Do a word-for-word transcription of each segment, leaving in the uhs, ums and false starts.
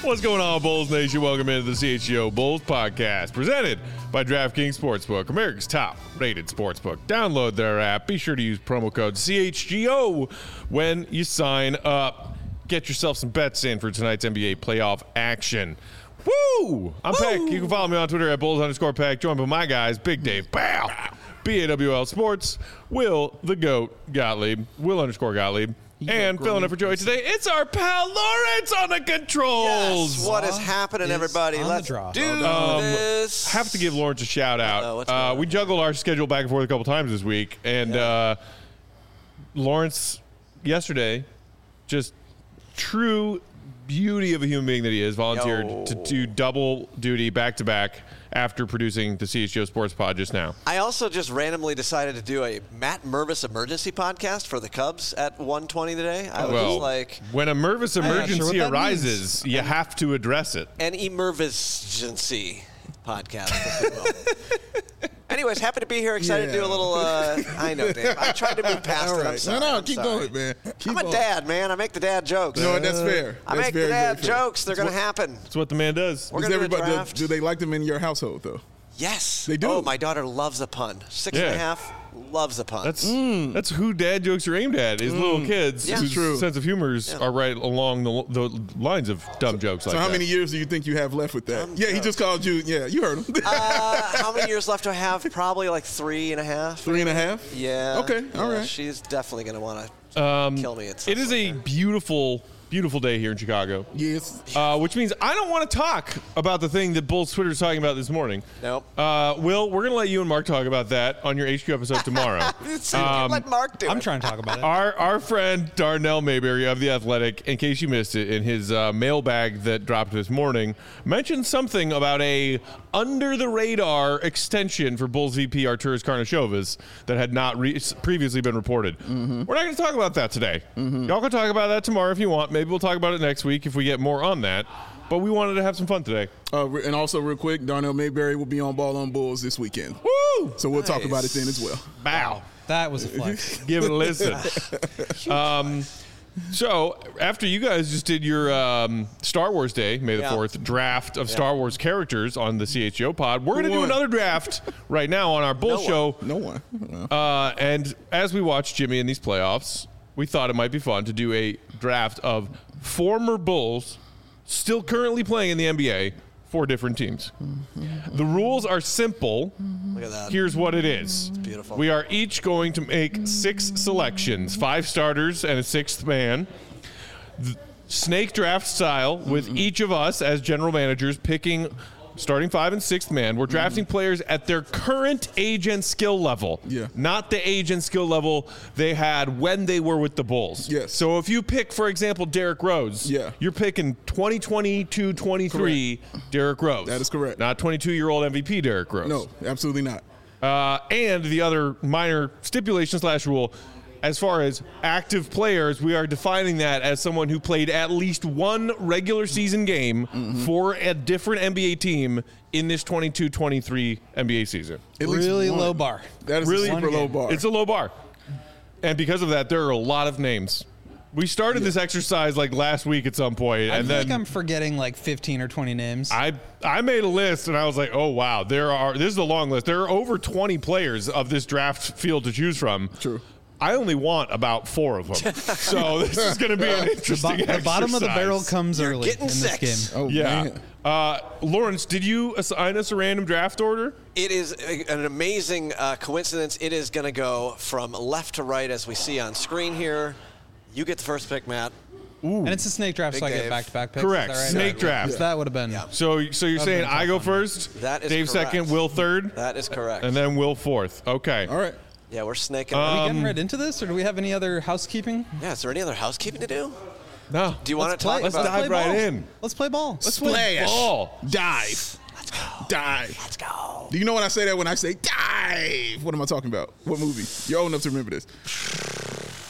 What's going on, Bulls Nation? Welcome into the C H G O Bulls podcast, presented by DraftKings Sportsbook, America's top-rated sportsbook. Download their app. Be sure to use promo code C H G O when you sign up. Get yourself some bets in for tonight's N B A playoff action. Woo! I'm Woo! Peck. You can follow me on Twitter at Bulls underscore Peck. Joined by my guys, Big Dave, Bow, B A W L Sports, Will the Goat Gottlieb, Will underscore Gottlieb. And filling in for Joey today, it's our pal Lawrence on the controls. Yes, what is happening, everybody? Let's do um, this. Have to give Lawrence a shout out. Uh, we juggled our schedule back and forth a couple times this week, and yeah. uh, Lawrence yesterday, just true beauty of a human being that he is, volunteered Yo. to do double duty back to back after producing the C H G O Sports Pod just now. I also just randomly decided to do a Matt Mervis emergency podcast for the Cubs at one twenty today. I was well, just like, when a Mervis emergency sure arises, means. you have to address it. An emergency podcast, if you will. Anyways, happy to be here. Excited yeah. to do a little, uh, I know, Dave. I tried to move past All it. right. I'm sorry. No, no, I'm keep sorry. going, man. Keep I'm a on. dad, man. I make the dad jokes. No, that's fair. I that's make very, the dad very fair. jokes. They're going to happen. That's what the man does. We're does going to do a everybody, draft. do, do they like them in your household, though? Yes. They do? Oh, my daughter loves a pun. Six yeah. and a half, loves a pun. That's mm. that's who dad jokes are aimed at, is mm. little kids yeah. whose true. sense of humors yeah. are right along the, the lines of dumb so, jokes so like that. So how many years do you think you have left with that? Dumb yeah, jokes. he just called you. Yeah, you heard him. uh, how many years left do I have? Probably like three and a half. Three and a half? Yeah. Okay, yeah, all right. She's definitely going to want to um, kill me at some It is point a there. beautiful... beautiful day here in Chicago. Yes. Uh, which means I don't want to talk about the thing that Bulls Twitter is talking about this morning. Nope. Uh, Will, we're going to let you and Mark talk about that on your H Q episode tomorrow. um, let Mark do it. I'm trying to talk about it. Our our friend Darnell Mayberry of The Athletic, in case you missed it, in his uh, mailbag that dropped this morning, mentioned something about a under-the-radar extension for Bulls V P Arturas Karnisovas that had not re- previously been reported. Mm-hmm. We're not going to talk about that today. Mm-hmm. Y'all can talk about that tomorrow if you want. Maybe we'll talk about it next week if we get more on that. But we wanted to have some fun today. Uh, and also, real quick, Darnell Mayberry will be on Ball on Bulls this weekend. Woo! So we'll nice. talk about it then as well. Bow. That was a flex. Give it a listen. um, so after you guys just did your um, Star Wars Day, May the yeah. fourth, draft of yeah. Star Wars characters on the C H G O pod, we're going to do won? another draft right now on our Bull No show. one. No one. No. Uh, and as we watch Jimmy in these playoffs, we thought it might be fun to do a draft of former Bulls still currently playing in the N B A for different teams. Mm-hmm. The rules are simple. Look at that. Here's what it is. It's beautiful. We are each going to make six selections, five starters and a sixth man. The snake draft style with mm-hmm. each of us as general managers picking starting five and sixth man. We're drafting mm-hmm. players at their current age and skill level. Yeah. Not the age and skill level they had when they were with the Bulls. Yes. So if you pick, for example, Derrick Rose, yeah. you're picking twenty twenty-two twenty-three Derrick Rose. That is correct. Not twenty-two-year-old M V P Derrick Rose. No, absolutely not. Uh, and the other minor stipulation slash rule, as far as active players, we are defining that as someone who played at least one regular season game mm-hmm. for a different N B A team in this twenty-two twenty-three N B A season. At least really one. low bar. That is really a super low bar. It's a low bar. And because of that, there are a lot of names. We started yeah. this exercise like last week at some point, I and feel then like I'm forgetting like fifteen or twenty names. I I made a list, and I was like, oh wow, there are. This is a long list. There are over twenty players of this draft field to choose from. True. I only want about four of them, so this is going to be an interesting the, bo- the bottom of the barrel comes You're early getting in this six. game. Oh, yeah. man. Uh, Lawrence, did you assign us a random draft order? It is a, an amazing uh, coincidence. It is going to go from left to right as we see on screen here. You get the first pick, Matt. Ooh. And it's a snake draft, Big so I Dave. get back-to-back picks. Correct. Is that right? Snake draft. So that would have been. Yeah. So, so you're That'd saying been I go fun. first? That is Dave correct. second, Will third, That is correct. and then Will fourth. Okay. All right. Yeah, we're snaking. Are we Um, getting right into this, or do we have any other housekeeping? yeah, is there any other housekeeping to do? No. Do you want Let's to talk play- Let's about? dive play right ball. in. Let's play ball. Let's play Splash. ball. Dive. Let's go. Dive. Let's go. Do you know when I say that? When I say dive, what am I talking about? What movie? You're old enough to remember this.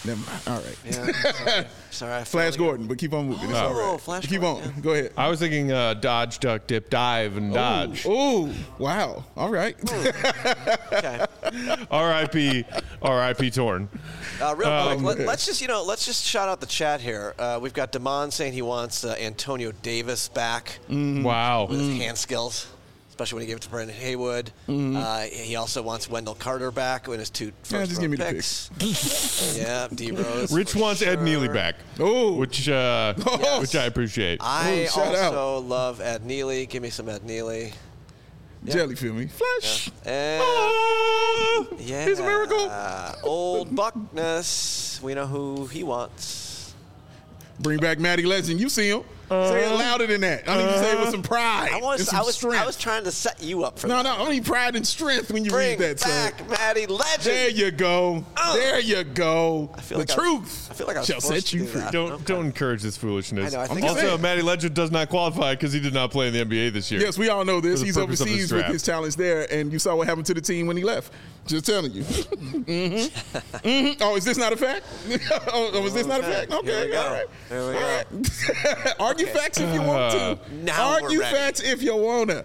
Never mind. All right. Yeah. Sorry. Sorry I Flash failed Gordon, but keep on moving. It's you. all right. Oh, Flash Keep Gordon, on. yeah. Go ahead. I was thinking uh, dodge, duck, dip, dive, and dodge. Ooh, wow. All right. Okay. R I P R I P Torn. Uh, real Um, quick, let, let's just you know, let's just shout out the chat here. Uh, we've got Damon saying he wants uh, Antonio Davis back Wow. with his hand skills, especially when he gave it to Brandon Haywood. Uh, he also wants Wendell Carter back in his two first Yeah, just round give me the picks. Yeah, D Rose. Rich for wants Ed sure. Neely back, Oh, which uh, Yes. which I appreciate. I Oh, shout out. also love Ed Neely. Give me some Ed Neely. jelly feel me. Flash. And Oh, yeah, he's a miracle. Old Buckness. We know who he wants. Bring back Matty Legend. You see him. Say it louder than that. I need you to say it with some pride I and was, some I was, strength. I was trying to set you up for no, that. no, I need pride and strength when you Bring read that, son. back Matty Legend. There you go. Uh. there you go. I feel the like I was- truth I feel like I was shall forced set to you do free. that. Don't Okay. don't encourage this foolishness. I know, I think also, saying. Matty Legend does not qualify because he did not play in the N B A this year. Yes, we all know this. For the He's purpose of his overseas with draft. his talents there, and you saw what happened to the team when he left. Just telling you. mm-hmm. Mm-hmm. Oh, is this not a fact? oh, oh, is this not a fact? Here Okay, we go. all right. Here we go. All right. Argue facts if you want to. Now we're Argue ready. facts if you wanna.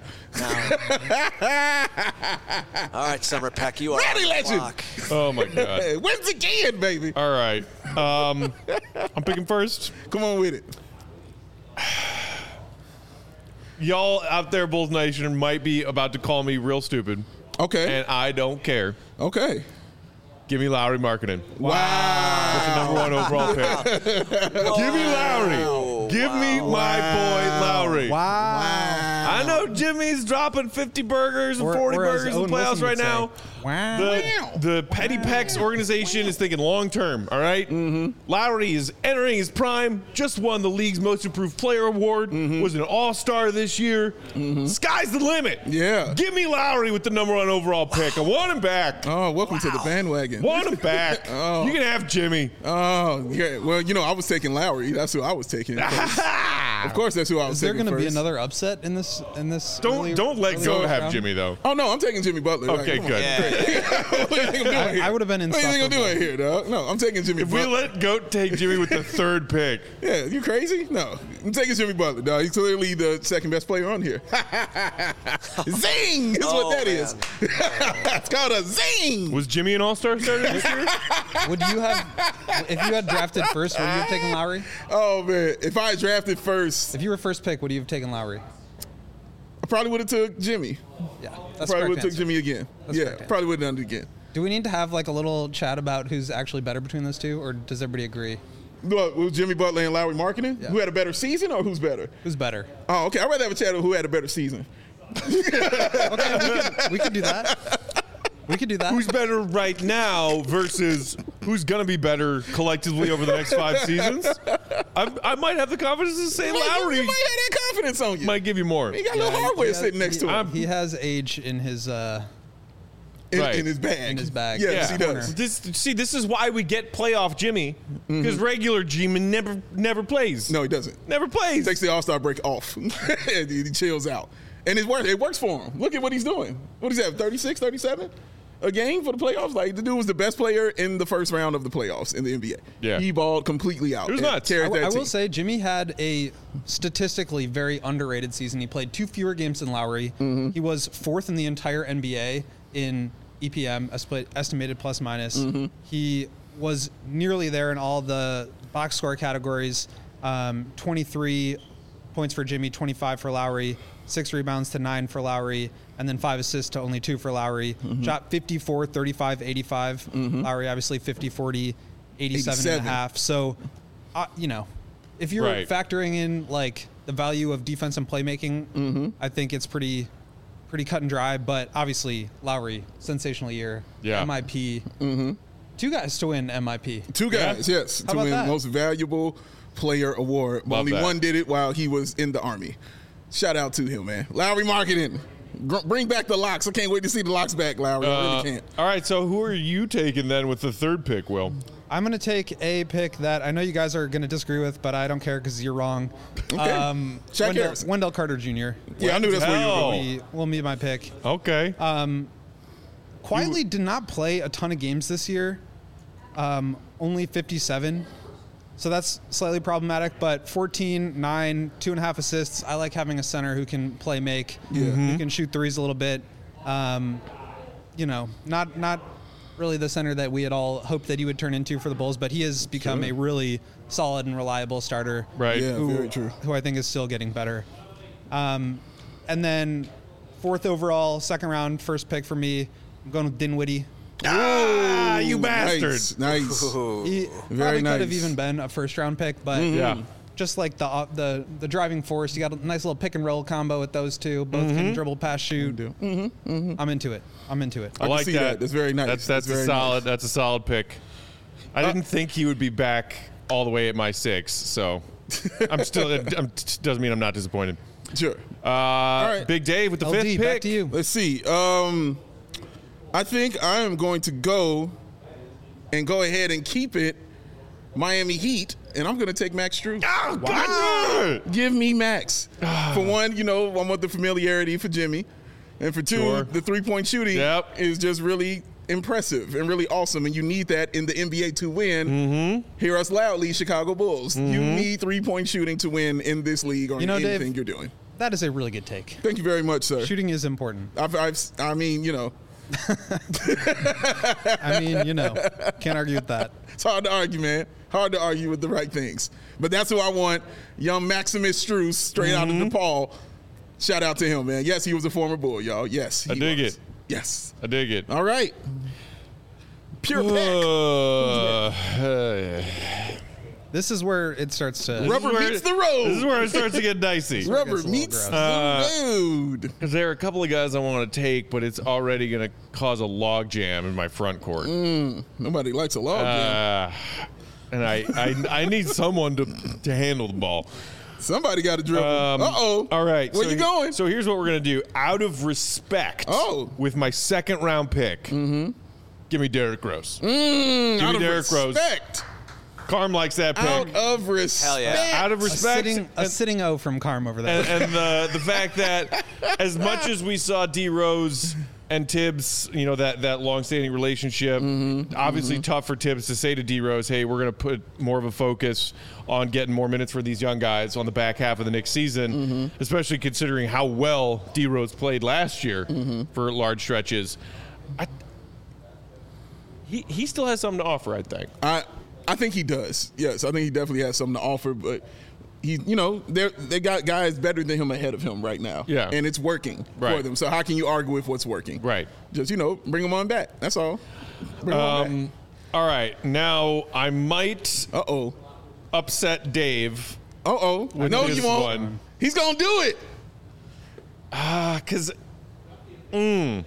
All right, Summer Peck, you are Matty on the Legend. clock. Oh my god. Hey, wins again, baby. All right. Um, I'm picking first. Come on with it. Y'all out there, Bulls Nation, might be about to call me real stupid, Okay. and I don't care. okay. Give me Lowry Markkinen. Wow. With the number one overall pick. Give me Lowry. Give me my boy Lowry. Wow. I know Jimmy's dropping fifty burgers and Or- forty or as burgers in the Owen playoffs Wilson right would say, now. Wow. The, the Petty Pecs organization is thinking long term, all right? Mm-hmm. Lowry is entering his prime, just won the league's most improved player award, Mm-hmm. was an all star this year. Sky's the limit. Yeah. Give me Lowry with the number one overall pick. I want him back. Oh, welcome to the bandwagon. Want him back. Oh. You can have Jimmy. Oh, yeah. Well, you know, I was taking Lowry. That's who I was taking. first. Of course, that's who I was Is there taking going to be first. another upset in this? In this? Don't early- don't let early go first have round? Jimmy though. Oh no, I'm taking Jimmy Butler. Okay, Like, come good. Yeah. on. What do you think I'm doing I- here? I would have been What do you think I'm insufferable. doing here, dog? No, I'm taking Jimmy If we Butler. let Goat take Jimmy with the third pick, Yeah, you crazy? No, I'm taking Jimmy Butler, dog. He's clearly the second best player on here. Zing is Oh, what that man. is. It's called a zing. was Jimmy an all star starter this year? Would you have, if you had drafted first, would you have taken Lowry? Oh man, if I had drafted first, If you were first pick, would you have taken Lowry? I probably would have took Jimmy. Yeah, I that's probably would correct have took answer. Jimmy again. That's yeah, correct answer. probably would have done it again. Do we need to have like a little chat about who's actually better between those two, or does everybody agree? Look, was Jimmy Butler and Lowry Markkinen? Yeah. Who had a better season or who's better? Who's better? Oh, okay. I'd rather have a chat on who had a better season. Okay, we could, we could do that. We could do that. Who's better right now versus who's going to be better collectively over the next five seasons? I, I might have the confidence to say You might, Lowry you might have that confidence on you. might give you more. He got a little Yeah, hardware he has- sitting next he, to him He has age in his. Uh, in, Right. in his bag. In his bag. Yes, Yeah. he does. This, see, this is why we get playoff Jimmy because regular Jimmy never never plays. Mm-hmm. No, he doesn't. never plays. Takes the All Star break off. and he chills out, and it works. It works for him. Look at what he's doing. What does he have? thirty-six, thirty-seven a game for the playoffs. Like the dude was the best player in the first round of the playoffs in the N B A. Yeah. he balled completely out. It was and nuts. carried I, w- that I will team. say Jimmy had a statistically very underrated season. He played two fewer games than Lowry. Mm-hmm. He was fourth in the entire N B A in E P M, esp- estimated plus minus. Mm-hmm. He was nearly there in all the box score categories. Um, twenty-three points for Jimmy, twenty-five for Lowry, six rebounds to nine for Lowry, and then five assists to only two for Lowry. Mm-hmm. Shot fifty-four, thirty-five, eighty-five. Lowry obviously fifty, forty, eighty-seven and a eighty-seven. half. So, uh, you know, if you're Right. factoring in like the value of defense and playmaking, Mm-hmm. I think it's pretty, pretty cut and dry. But obviously, Lowry, sensational year, Yeah. M I P. Mm-hmm. Two guys to win M I P. Two guys, yes, How to about win that? most valuable player award. But Love only that. one did it while he was in the Army. Shout out to him, man. Lowry Markkinen. Gr- Bring back the locks. I can't wait to see the locks back, Lowry. I Uh, really can't. all right, so who are you taking then with the third pick, Will? I'm going to take a pick that I know you guys are going to disagree with, but I don't care because you're wrong. Okay. Um, Shaq Wendell, Harrison. Wendell Carter Junior Yeah, I knew that's where you were Hell. going. Will be, will be my pick. Okay. Quietly did not play a ton of games this year. Um, only fifty-seven. So that's slightly problematic, but fourteen, nine, two and a half assists. I like having a center who can play make, Yeah. who can shoot threes a little bit. Um, you know, not not really the center that we had all hoped that he would turn into for the Bulls, but he has become Sure. a really solid and reliable starter. Right. Yeah, Who, very true. who I think is still getting better. Um, and then fourth overall, second round, first pick for me, I'm going with Dinwiddie. Ah, you bastard. Nice. nice. He Very probably nice. could have even been a first round pick, but Yeah. just like the uh, the the driving force, you got a nice little pick and roll combo with those two. Both can dribble, pass, shoot. Mm-hmm. I'm into it. I'm into it. I can like see that. that. That's very nice. That's that's, That's a very solid. nice. That's a solid pick. I didn't think he would be back all the way at my six, so I'm still. It I'm- doesn't mean I'm not disappointed. Sure. Uh, right. Big Dave with the L fifth D, pick. back to you. Let's see. Um, I think I am going to go and go ahead and keep it Miami Heat, and I'm going to take Max Strus. Oh, God. Give me Max. For one, you know, I want the familiarity for Jimmy. And for two, Sure. the three-point shooting Yep. is just really impressive and really awesome. And you need that in the N B A to win. Mm-hmm. Hear us loudly, Chicago Bulls. Mm-hmm. You need three-point shooting to win in this league or You know, in anything Dave- you're doing. That is a really good take. Thank you very much, sir. Shooting is important. I've, I've, I mean, you know, I mean, you know, can't argue with that. it's hard to argue, man. Hard to argue with the right things. But that's who I want. Young Maximus Strus, straight out of DePaul. Shout out to him, man. Yes, he was a former Bull, y'all. Yes, he I dig was. it. Yes. I dig it. All right. Pure pick. Uh, uh, This is where it starts to. Rubber this is where meets it- the road. This is where it starts to get dicey. Rubber gets a little meets gross. the road. Because there are a couple of guys I want to take, but it's already going to cause a log jam in my front court. Nobody likes a log jam. Uh, and I, I I need someone to to handle the ball. Somebody got to dribble. Um, Uh-oh. All right. Where so you he- going? So here's what we're going to do. Out of respect, Oh. with my second round pick, Mm-hmm. give me Derrick Rose. Mm, Give out me of Derrick Rose. respect. Carm likes that pick. Out of respect. Hell yeah. Out of a respect. sitting, a and- sitting O from Carm over there. and, and the the fact that as much as we saw D Rose and Tibbs, you know, that that long-standing relationship, obviously tough for Tibbs to say to D Rose, "Hey, we're going to put more of a focus on getting more minutes for these young guys on the back half of the next season," especially considering how well D Rose played last year for large stretches. I, he he still has something to offer, I think. I I think he does. Yes, I think he definitely has something to offer, but he, you know, they they got guys better than him ahead of him right now. Yeah. and it's working for Right. them. So how can you argue with what's working? Right. Just, you know, bring them on back. That's all. Bring them on Um, all right, now I might back. Uh oh. upset Dave. Uh oh. With No, this you won't. one. He's gonna do it. Because mm,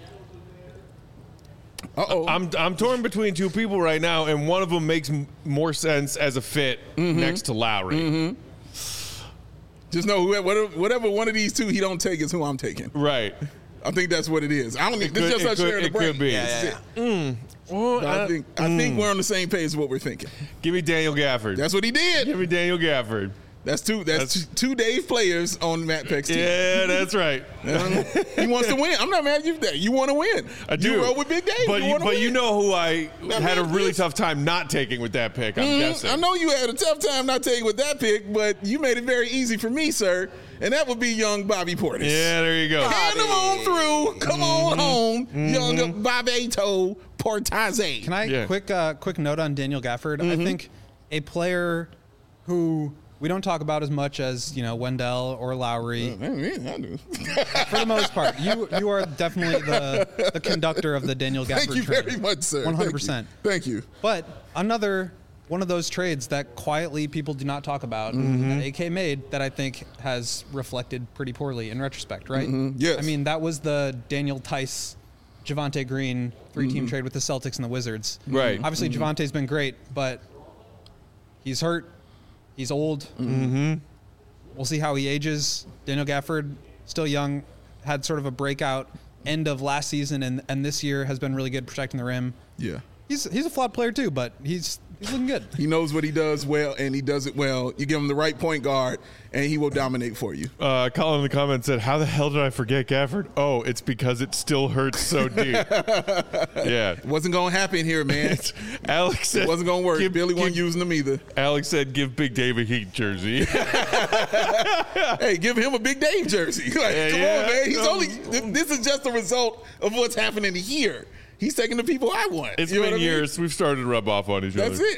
Uh oh. I'm I'm torn between two people right now, and one of them makes m- more sense as a fit Mm-hmm. next to Lowry. Just know whoever, whatever, whatever one of these two he don't take is who I'm taking. Right. I think that's what it is. I don't. Think, this could- is just it us could- sharing the it brain. could be. Yeah, That's yeah, it. Well, But I I- think I think we're on the same page as what we're thinking. give me Daniel Gafford. That's what he give did. me Daniel Gafford. That's two. That's, That's- two Dave players on Matt Peck's team. Yeah, that's right. He wants to win. I'm not mad at you for that. You want to win. I do. You roll with Big Dave. But you, you, wanna but win. you know who I That had a man really is- tough time not taking with that pick. I'm Mhm. guessing. I know you had a tough time not taking with that pick, but you made it very easy for me, sir. And that would be young Bobby Portis. Yeah, there you go. Hand him on through. Come Mm-hmm. on home, young Bobeto Portaze. Can I Yeah. quick uh, quick note on Daniel Gafford? I think a player who we don't talk about as much as, you know, Wendell or Lowry. I do. For the most part, you you are definitely the the conductor of the Daniel Gafford Thank you train. very much, sir. one hundred percent. Thank you. But another one of those trades that quietly people do not talk about that A K made that I think has reflected pretty poorly in retrospect, right? Yes. I mean, that was the Daniel Tice, Javante Green three-team trade with the Celtics and the Wizards. Right. Obviously, Javante's been great, but he's hurt. He's old. Mm-hmm. We'll see how he ages. Daniel Gafford, still young, had sort of a breakout end of last season, and, and this year has been really good protecting the rim. Yeah. He's he's a flawed player too, but he's He's looking good. He knows what he does well, and he does it well. You give him the right point guard, and he will dominate for you. Uh, Colin in the comments said, how the hell did I forget Gafford? Oh, it's because it still hurts so deep. Yeah. It wasn't going to happen here, man. Alex said, It wasn't going to work. give- Billy wasn't give- using them either. Alex said, give Big Dave a Heat jersey. Hey, give him a Big Dave jersey. Like, Yeah, come yeah. on, man. He's Um, only. th- This is just a result of what's happening here. He's taking the people I want. It's You know been what I mean? years. We've started to rub off on each That's other.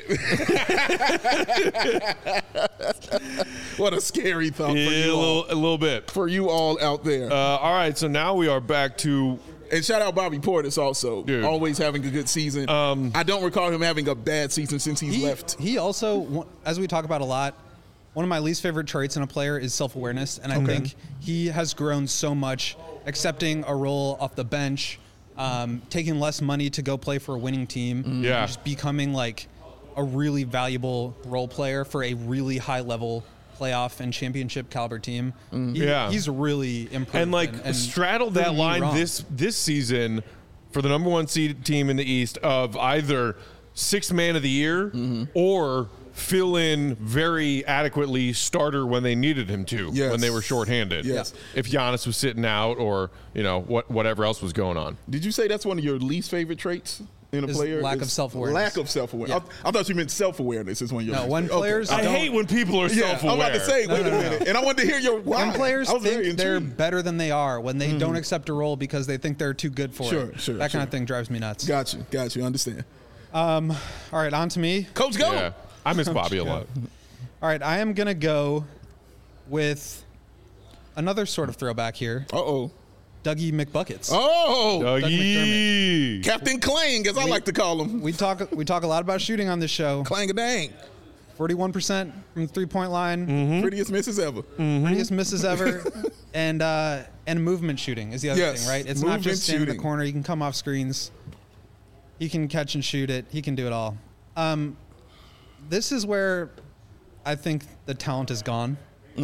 it. What a scary thought for Yeah, a you all. little, a little bit. For you all out there. Uh, all right, so now we are back to And shout out Bobby Portis also. Dude. Always having a good season. Um, I don't recall him having a bad season since he's He, left. he also, as we talk about a lot, one of my least favorite traits in a player is self-awareness, and I Okay. think he has grown so much, accepting a role off the bench, um, taking less money to go play for a winning team, Yeah. and just becoming like a really valuable role player for a really high-level playoff and championship caliber team. He- Yeah. he's really improved and like and straddled that proving me line wrong. this this season for the number one seed team in the East of either sixth man of the year or fill in very adequately starter when they needed him to Yes. when they were shorthanded. Yes. If Giannis was sitting out or you know what whatever else was going on. Did you say that's one of your least favorite traits in a Is player? lack Is of self-awareness. Lack of self-awareness. I, I thought you meant self-awareness is one of your No, least when favorite. players I don't- hate when people are Yeah, I'm self-aware. about to say, wait no, a no. minute. And I wanted to hear your why. When players I was very think they're intrigued. better than they are, when they don't accept a role because they think they're too good for Sure, it, sure, that sure. kind of thing drives me nuts. Got you. Got you. Understand. All right, on to me. Coach, go. Yeah. I miss Bobby a lot. All right, I am going to go with another sort of throwback here, Uh-oh. Dougie McBuckets. Oh. Dougie. Captain Clang, as I like to call him. We talk we talk a lot about shooting on this show. Clang-a-dang. forty-one percent from the three-point line, Mm-hmm. Prettiest misses ever. prettiest misses ever, and uh, and movement shooting is the other Yes, thing, right? It's not movement just stand in shooting. the corner. You can come off screens. He can catch and shoot it. He can do it all. Um, this is where I think the talent is gone.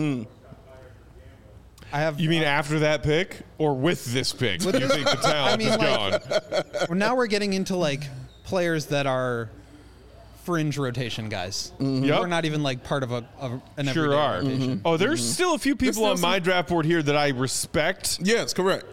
I have. You mean after that pick or with this pick? With you this- think the talent I mean, is like- gone? well, now we're getting into like players that are fringe rotation guys. Yep. We're not even like part of a of an Sure everyday are. rotation. Oh, there's still a few people still on my some- draft board here that I respect, Yes, correct.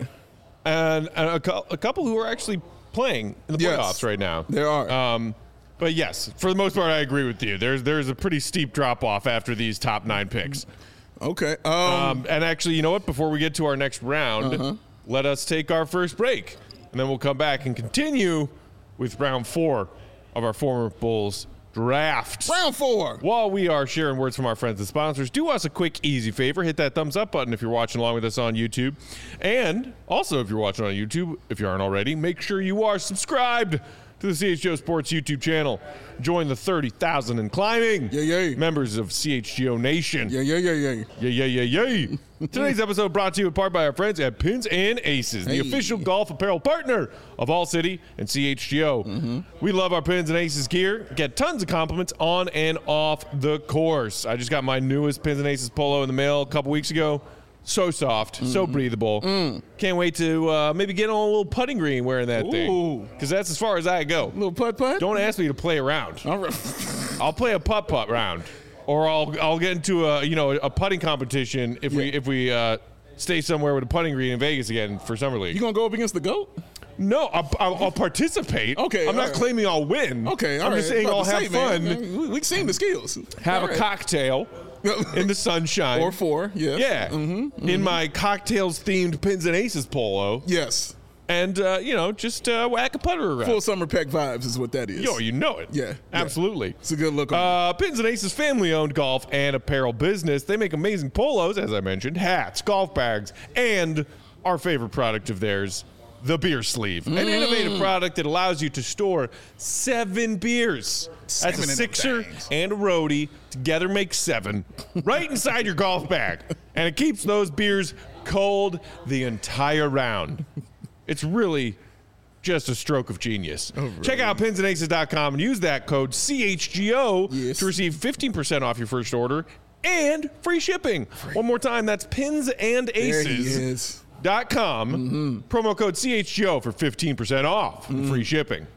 and, and a, cou- a couple who are actually playing in the Yes. playoffs right now. There are. Um, but yes, for the most part, I agree with you. There's there's a pretty steep drop off after these top nine picks. Okay. Um, Um, and actually, you know what? Before we get to our next round, Uh-huh. let us take our first break, and then we'll come back and continue with round four of our former Bulls draft. round four. While we are sharing words from our friends and sponsors, do us a quick, easy favor. Hit that thumbs up button if you're watching along with us on YouTube. And also, if you're watching on YouTube, if you aren't already, make sure you are subscribed to the C H G O Sports YouTube channel. Join the thirty thousand and climbing Yeah, yeah. members of C H G O Nation. Yeah, yeah, yeah, yeah. Yeah, yeah, yeah, yeah. Today's episode brought to you in part by our friends at Pins and Aces, the Hey. official golf apparel partner of All City and C H G O. Mm-hmm. We love our Pins and Aces gear. Get tons of compliments on and off the course. I just got my newest Pins and Aces polo in the mail a couple weeks ago. So soft, so Mm-hmm. breathable. Mm. Can't wait to uh, maybe get on a little putting green wearing that Ooh. thing. Because that's as far as I go. Little putt putt. Don't ask me to play around. All right. I'll play a putt putt round, or I'll I'll get into a you know a putting competition if we Yeah. if we uh, stay somewhere with a putting green in Vegas again for summer league. You gonna go up against the GOAT? No, I'll, I'll, I'll participate. Okay, I'm all not right. claiming I'll win. Okay, all I'm right. just saying About I'll to have say, man, fun, man, we, we've seen the skills. have All a right. cocktail in the sunshine, Or four, yeah. yeah, Mm-hmm, in my cocktails themed Pins and Aces polo, Yes. and uh, you know just uh, whack a putter around. Full summer pack vibes is what that is. Yo, you know it. Yeah, yeah. absolutely. It's a good look on Uh, Pins and Aces family-owned golf and apparel business. They make amazing polos, as I mentioned, hats, golf bags, and our favorite product of theirs, the beer sleeve. An Mm. innovative product that allows you to store seven beers. Seven That's a of them sixer things. and a roadie. Together make seven. Right inside your golf bag. And it keeps those beers cold the entire round. It's really just a stroke of genius. Oh, Check out pins and aces dot com and use that code C H G O Yes. to receive fifteen percent off your first order and free shipping. One more time, that's pins and There he aces is. dot com. Mm-hmm. Promo code C H G O for fifteen percent off and free shipping.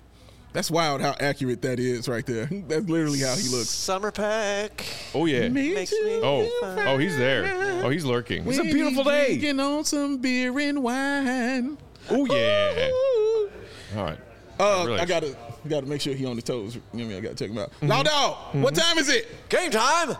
That's wild how accurate that is right there. That's literally how he looks. Summer pack. Oh yeah. Makes me Oh, fine. oh, he's there. Oh, he's lurking. It's a When beautiful he day. Drinking on some beer and wine. Oh yeah. Ooh. All right. Uh, Really. I gotta, gotta make sure he on his toes. You know what I mean? I gotta check him out. Mm-hmm. Law Dog, what time is it? Game time.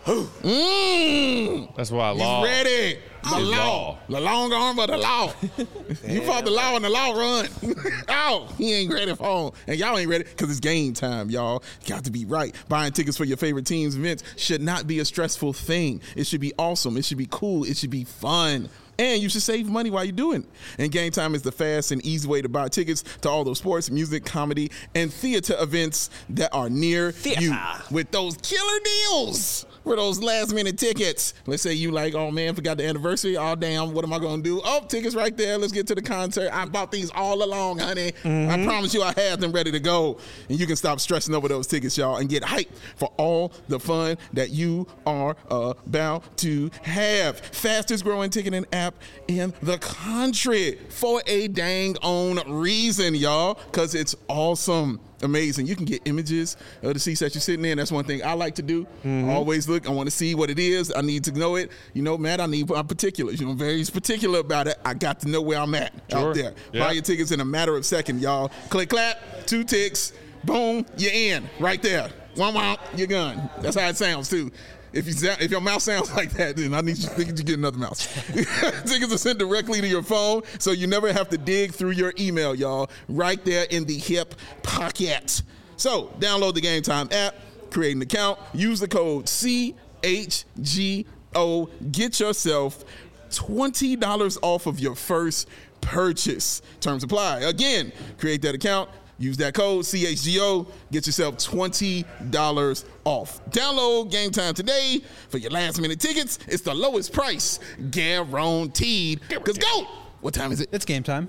Mm, That's why I he's law. ready. The He's law. law. The long arm of the law. You fought the law and the law run. Oh, he ain't ready for home. And y'all ain't ready because it's game time, y'all. Got to be right. Buying tickets for your favorite team's events should not be a stressful thing. It should be awesome. It should be cool. It should be fun. And you should save money while you're doing it. And Game Time is the fast and easy way to buy tickets to all those sports, music, comedy, and theater events that are near Theater. you. With those killer deals for those last minute tickets. Let's say you like, oh man, forgot the anniversary. Oh damn, what am I gonna do? Oh, tickets right there. Let's get to the concert. I bought these all along, honey. I promise you I have them ready to go. And you can stop stressing over those tickets, y'all, and get hyped for all the fun that you are about to have. Fastest growing ticketing app in the country for a dang own reason, y'all, because it's awesome. Amazing. You can get images of the seats that you're sitting in. That's one thing I like to do. Mm-hmm. Always look. I want to see what it is. I need to know it. You know, Matt, I need my particulars. You know, I'm very particular about it. I got to know where I'm at Sure. out there. Yeah. Buy your tickets in a matter of seconds, y'all. Click, clap, two ticks, boom, you're in. Right there. One, one, you're gone. That's how it sounds, too. If you sound, if your mouth sounds like that, then I need you, need you to get another mouse. Tickets are sent directly to your phone, so you never have to dig through your email, y'all. Right there in the hip pocket. So download the Game Time app, create an account, use the code C H G O. Get yourself twenty dollars off of your first purchase. Terms apply. Again, create that account. Use that code C H G O. Get yourself twenty dollars off. Download Game Time today for your last minute tickets. It's the lowest price guaranteed. Because go! What time is it? It's game time.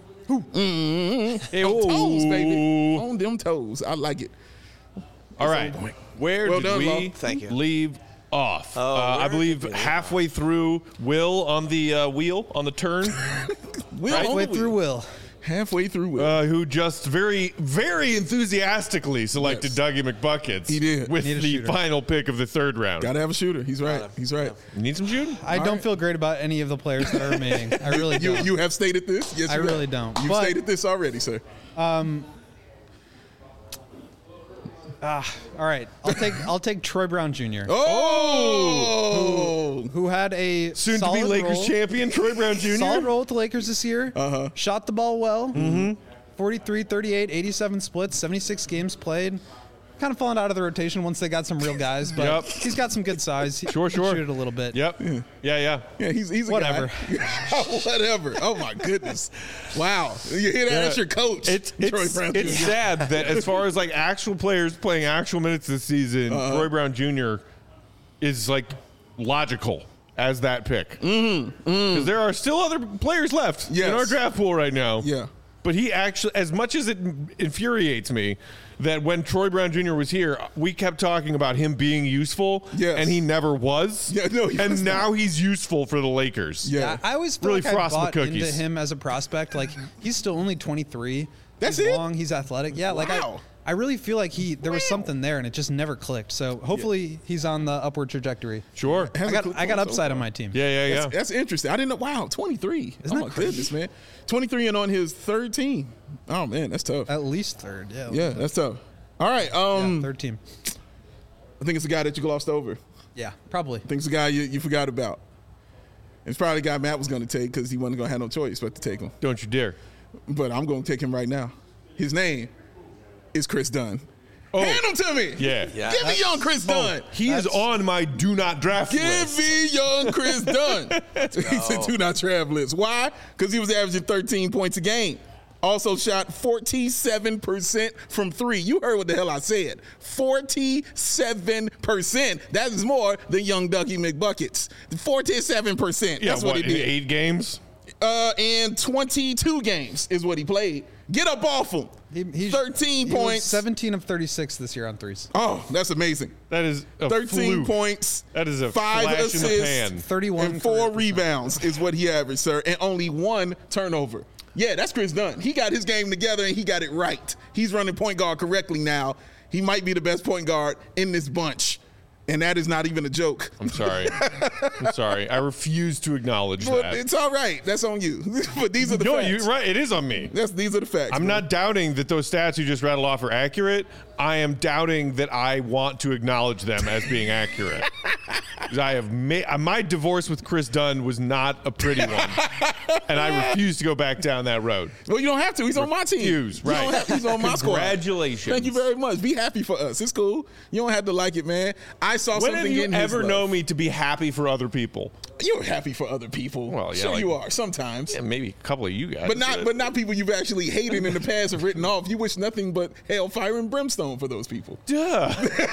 Mm-hmm. Hey, On whoa. toes, baby. On them toes. I like it. All right. Where Well did done, we Law. Thank you. leave off? Oh, uh, I where believe did we leave halfway through Will on the uh, wheel, on the turn, Will on the Halfway wheel. through Will. Halfway through Will. uh, who just very, very enthusiastically selected Yes. Dougie McBuckets. He did. With Need a the shooter. final pick of the third round. Gotta have a shooter. He's right. He's right. You need some shooting? I All don't right. feel great about any of the players that are remaining. I really You don't. you have stated this? Yes, I you have. really don't. You've But- stated this already, sir. All right, I'll take I'll take Troy Brown Junior Oh! who had a Soon to solid be Lakers role, champion, Troy Brown Junior solid role with the Lakers this year. Uh-huh. Shot the ball well. Mm-hmm. forty-three, thirty-eight, eighty-seven splits, seventy-six games played. Kind of fallen out of the rotation once they got some real guys, but Yep. he's got some good size. He Sure, can sure. shoot it a little bit. Yep. Yeah, yeah. Yeah, he's he's a Whatever. guy. Whatever. Oh my goodness! Wow, you hear that? That's your coach. It's Troy it's, Brown it's Junior sad that as far as like actual players playing actual minutes this season, Uh-huh. Troy Brown Junior is like logical as that pick because mm-hmm. there are still other players left Yes. in our draft pool right now. Yeah. But he actually, as much as it infuriates me that when Troy Brown Junior was here, we kept talking about him being useful, Yes. and he never was. Yeah, no, he and was now not. he's useful for the Lakers. Yeah. Yeah, I always feel Really like I frost my bought into cookies. him as a prospect. Like he's still only twenty-three. That's he's it? long. He's athletic. Yeah, like Wow. I, I really feel like he there was Wow. something there, and it just never clicked. So hopefully he's on the upward trajectory. Sure. Has I a got click I got on so upside on far. my team. Yeah, yeah, yeah. That's, that's interesting. I didn't know. Wow, twenty-three. Isn't oh that my crazy? goodness, man. twenty-three and on his third team. Oh man, that's tough. At least third. Yeah. Yeah, that's tough. All right. Um, Yeah, third team. I think it's the guy that you glossed over. Yeah, probably. I think it's the guy you, you forgot about. It's probably the guy Matt was going to take because he wasn't going to have no choice but to take him. Don't you dare. But I'm going to take him right now. His name is Chris Dunn. Oh. Hand him to me. Yeah. Yeah. Give me young Chris Dunn. He is on my do not draft Give list. me young Chris Dunn. He said do not travel list. Why? Because he was averaging thirteen points a game. Also shot forty-seven percent from three. You heard what the hell I said. forty-seven percent. That is more than young Dougie McBuckets. forty-seven percent. Yeah, That's what, what, he in did. eight games? Uh, and twenty-two games is what he played. Get up off him. He, he- thirteen he was points. seventeen of thirty-six this year on threes. Oh, that's amazing. That is a thirteen fluke. points. That is a five flash in the assists, pan. thirty-one and four career percent. rebounds is what he averaged, sir, and only one turnover. Yeah, that's Chris Dunn. He got his game together and he got it right. He's running point guard correctly now. He might be the best point guard in this bunch. And that is not even a joke. I'm sorry. I'm sorry. I refuse to acknowledge But that. it's all right. That's on you. But these are the No, facts. you're right. It is on me. That's, these are the facts. I'm bro. not doubting that those stats you just rattled off are accurate. I am doubting that I want to acknowledge them as being accurate. 'Cause I have made my divorce with Chris Dunn was not a pretty one, and I refuse to go back down that road. Well, you don't have to. He's on my team. Refuse, You don't right. have- he's on my squad. Congratulations. Thank you very much. Be happy for us. It's cool. You don't have to like it, man. I saw When something have you in his ever love. known me to be happy for other people? You're happy for other people. Well, yeah, sure like- you are sometimes. Yeah, maybe a couple of you guys. But not, but not people you've actually hated in the past or written off. You wish nothing but hellfire and brimstone for those people. Duh.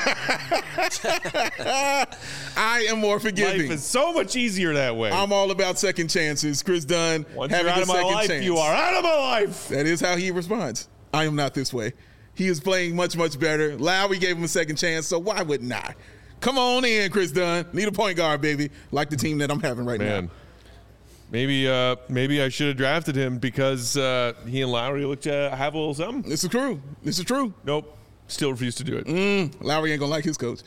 I am more Life forgiving. is so much easier that way. I'm all about second chances. Chris Dunn Once having you're out a of my second life, chance. you are out of my life. That is how he responds. I am not this way. He is playing much, much better. Lowry gave him a second chance, so why wouldn't I? Come on in, Chris Dunn. Need a point guard, baby. Like the team that I'm having right Man. now. Maybe, uh, maybe I should have drafted him because uh, he and Lowry looked to have a little something. This is true. This is true. Nope. Still refuse to do it. Mm, Lowry ain't gonna like his coach.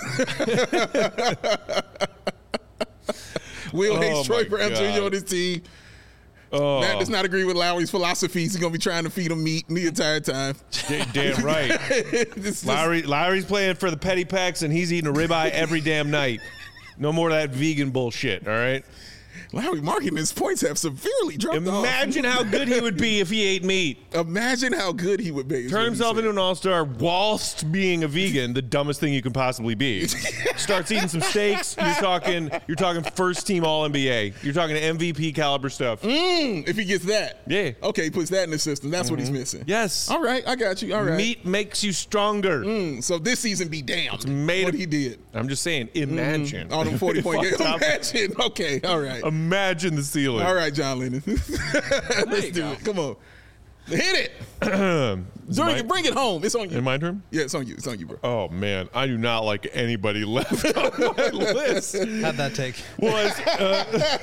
Will Oh, hates Troy my Brown God. Junior on his team. Oh, Matt does not agree with Lowry's philosophies. He's gonna be trying to feed him meat the entire time. da- damn right. This is- Lowry, Lowry's playing for the Petty Packs, and he's eating a ribeye every damn night. No more of that vegan bullshit, all right? Lowry marking his points have severely dropped off. Imagine how good he would be if he ate meat. Imagine how good he would be. is Turn what he himself said. into an all-star whilst being a vegan, the dumbest thing you can possibly be. Starts eating some steaks, you're talking you're talking first team all N B A. You're talking M V P caliber stuff. Mm, if he gets that. Yeah. Okay, he puts that in the system. That's what he's missing. Yes. All right, I got you. All right. Meat makes you stronger. Mm, so this season be damned. made what of- he did. I'm just saying, imagine. On them forty point games. Fucked up. Imagine. Okay, all right. Imagine the ceiling. All right, John Lennon. Let's you do go. it. Come on. Hit it. my- Bring it. Bring it home. It's on you. In my turn? Yeah, it's on you. It's on you, bro. Oh man, I do not like anybody left on my list. How'd that take? Was uh,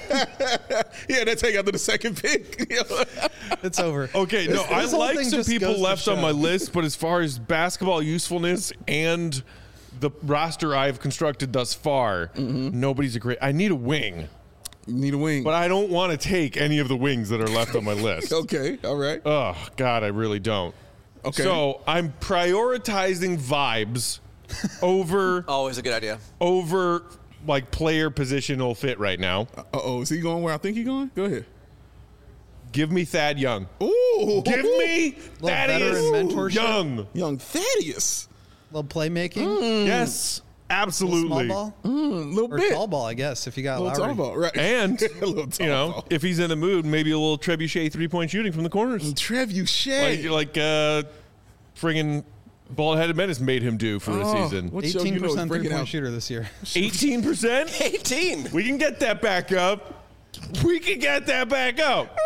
Yeah, that take after the second pick. It's over. okay, no, I This whole like thing some just people goes to left on show. my list, but as far as basketball usefulness and the roster I've constructed thus far, Mm-hmm. nobody's a great. I need a wing, You need a wing. but I don't want to take any of the wings that are left on my list. Okay, all right. Oh God, I really don't. Okay. So I'm prioritizing vibes over Always a good idea. over like player positional fit right now. Uh-oh, is he going where I think he's going? Go ahead. Give me Thad Young. Ooh. Give me Little Thaddeus veteran mentorship. Young. Young Thaddeus. little playmaking. Mm. Yes, Small absolutely. ball Mm, little or bit. tall ball, I guess. If you got little Lowry. tall ball, right. And a little tall you know, ball. if he's in the mood, maybe a little trebuchet three point shooting from the corners, Trebuchet. like like uh, friggin' bald headed menace made him do for a Oh, season. what show eighteen you know is percent breaking three point out? shooter this year. Eighteen percent. eighteen. We can get that back up. We can get that back up.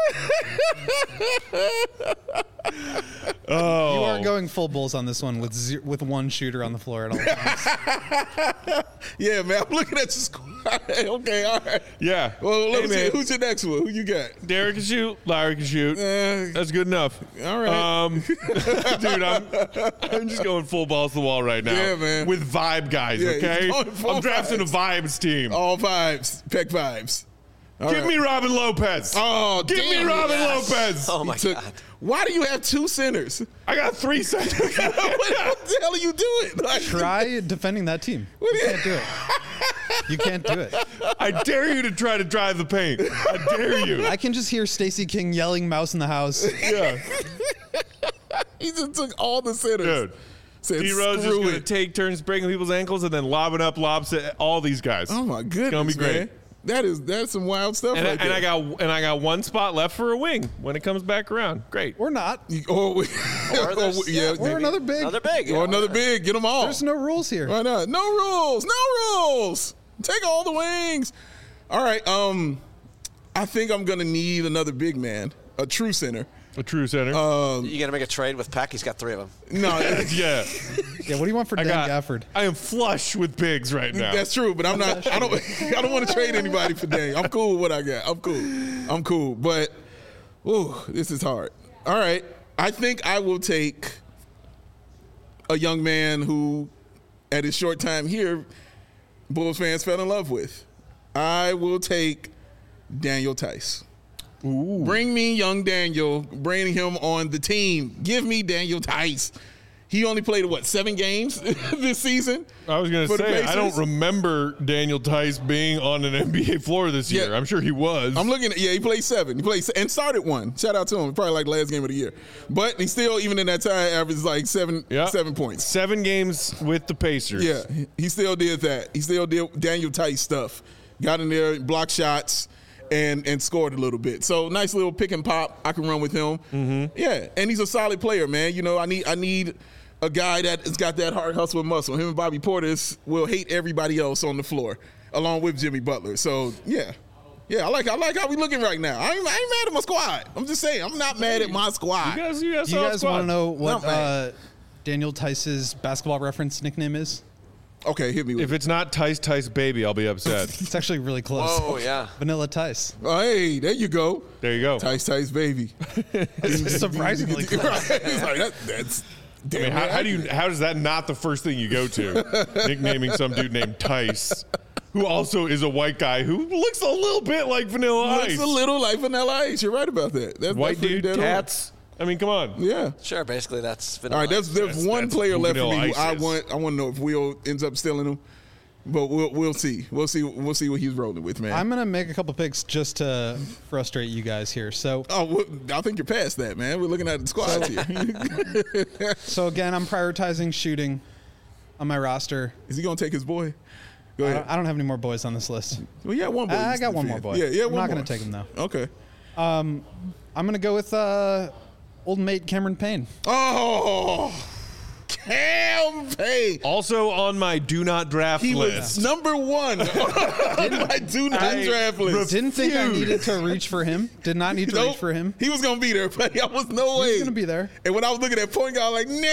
Oh, You are going full Bulls on this one with ze- with one shooter on the floor at all times. Yeah, man. I'm looking at your squad. Okay, all right. yeah. Well, let Hey, me see. man. Who's your next one? Who you got? Derek can shoot. Larry can shoot. Uh, That's good enough. all right. Um, dude, I'm I'm just going full balls to the wall right now. Yeah, man. With vibe guys, Yeah, he's okay? going full I'm drafting vibes. a vibes team. All vibes. Peck vibes. All Give right. me Robin Lopez. Oh, Give damn me it. Robin Yes. Lopez. Oh my Took- God. Why do you have two centers? I got three seconds. what, what the hell are you doing? Like, Try defending that team. What You do you- can't do it. You can't do it. I dare you to try to drive the paint. I dare you. I can just hear Stacey King yelling "Mouse in the house." Yeah, he just took all the centers. dude. Said, D Rose is screw going to it. take turns breaking people's ankles and then lobbing up lobs at all these guys. Oh my goodness, gonna be great. man. That is that's some wild stuff And, right I, and there. I got and I got one spot left for a wing when it comes back around. Great. Or not. Or, we- Or there's- or, yeah, Or another big. Another big. or another big. Get them all. There's no rules here. Why not? No rules. No rules. Take all the wings. All right. Um, I think I'm gonna need another big man, a true center. A true center. You gonna make a trade with Peck? He's got three of them. No, yeah. Yeah. What do you want for I Dan got. Gafford? I am flush with pigs right now. that's true. But I'm not. I don't. I don't want to trade anybody for Dame. I'm cool with what I got. I'm cool. I'm cool. But Ooh, this is hard. All right. I think I will take a young man who, at his short time here, Bulls fans fell in love with. I will take Daniel Tice. Ooh. Bring me young Daniel. Bring him on the team. Give me Daniel Tice. He only played, what, seven games this season? I was going to say, I don't remember Daniel Tice being on an N B A floor this year. Yeah. I'm sure he was. I'm looking at, yeah, he played seven. He played and started one. Shout out to him. Probably like last game of the year. But he still, even in that time, averaged like seven yep. seven points. Seven games with the Pacers. Yeah, he still did that. He still did Daniel Tice stuff. Got in there, blocked shots, and and scored a little bit. So nice little pick and pop. I can run with him. Mm-hmm. Yeah, and he's a solid player, man. You know, I need I need a guy that has got that hard hustle and muscle. Him and Bobby Portis will hate everybody else on the floor, along with Jimmy Butler. So yeah, yeah, I like I like how we looking right now. I ain't, I ain't mad at my squad. I'm just saying, I'm not mad at my squad. You guys, you guys, you guys want to know what No, uh, Daniel Tice's basketball reference nickname is? Okay, hit me with If it's not Tice Tice Baby, I'll be upset. It's actually really close. Oh, yeah. Vanilla Tice. Oh, hey, there you go. There you go. Tice, Tice, baby. It's surprisingly close. Right. It's like, that, that's I mean, how, how do you? How is that not the first thing you go to? Nicknaming some dude named Tice, who also is a white guy who looks a little bit like Vanilla Ice. Looks a little like Vanilla Ice. You're right about that. That's White that's dude, dead on. tats. I mean, come on. Yeah. Sure, basically that's All right, there's there's That's- one that's player who left for Vanilla me who Ice I is. want. I want to know if Will ends up stealing him, but we'll we'll see. We'll see. We'll see what he's rolling with, man. I'm gonna make a couple picks just to frustrate you guys here. So, oh, well, I think you're past that, man. We're looking at the squads here. so again, I'm prioritizing shooting on my roster. Is he gonna take his boy? Go I ahead. don't, I don't have any more boys on this list. Well, yeah, one boy. I you got can one more defend. boy. Yeah, yeah. I'm one not more. gonna take him though. Okay. I'm gonna go with uh, old mate Cameron Payne. Oh, Cam Payne. Also on my do not draft He list. was number one on my do not I draft list. Didn't think I Refuse. needed to reach for him. Did not need to Nope. reach for him. He was gonna be there, but I was no way. He's gonna be there. And when I was looking at point guard, I was like,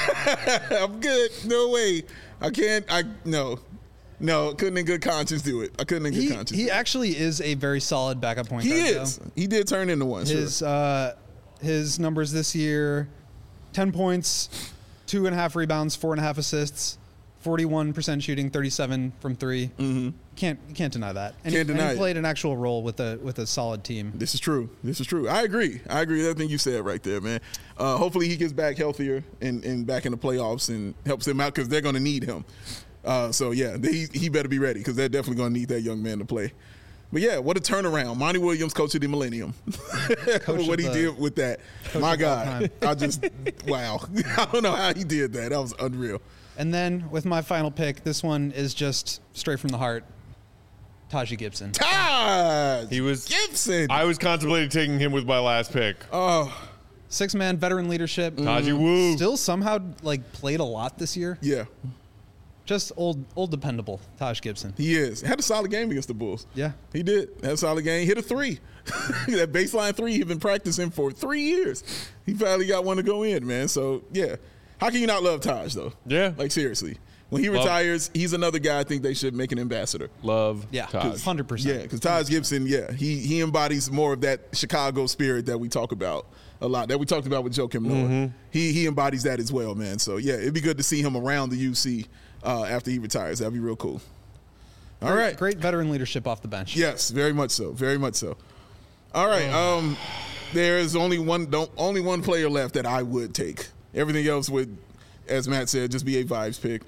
nope, I'm good. No way. I can't. I no, no. Couldn't in good conscience do it. I couldn't in good He, conscience. he actually is a very solid backup point He guard. is. though. He did turn into one. His sure. uh, his numbers this year: ten points, two and a half rebounds, four and a half assists, forty-one percent shooting, thirty-seven from three. Mm-hmm. Can't you can't deny that. And Can't he, deny and he it. played an actual role with a with a solid team. This is true. This is true. I agree. I agree with everything you said right there, man. Uh, hopefully he gets back healthier and, and back in the playoffs and helps them out because they're going to need him. Uh, so, yeah, he, he better be ready because they're definitely going to need that young man to play. But, yeah, what a turnaround. Monty Williams, coach of the Millennium. Coach what of he the- did with that. My of all God. time. I just, wow. I don't know how he did that. That was unreal. And then with my final pick, this one is just straight from the heart. Taji Gibson. Taj He was Gibson. I was contemplating taking him with my last pick. oh, Six man veteran leadership. Taji Woo. Still somehow like played a lot this year. yeah, Just old old dependable. Taj Gibson. he is. Had a solid game against the Bulls. Yeah. He did. Had a solid game. Hit a three. That baseline three he's been practicing for three years. He finally got one to go in, man. So, yeah. How can you not love Taj, though? Yeah. Like, seriously. When he Love- retires, he's another guy I think they should make an ambassador. Love Yeah. Taj. Hundred percent. Yeah, because Taj Gibson, yeah, he he embodies more of that Chicago spirit that we talk about a lot, that we talked about with Joakim Noah. Mm-hmm. He he embodies that as well, man. So, yeah, it'd be good to see him around the U C uh, after he retires. That'd be real cool. All right. Great veteran leadership off the bench. Yes, very much so. Very much so. All right. Um, there is only one don't only one player left that I would take. Everything else would, as Matt said, just be a vibes pick.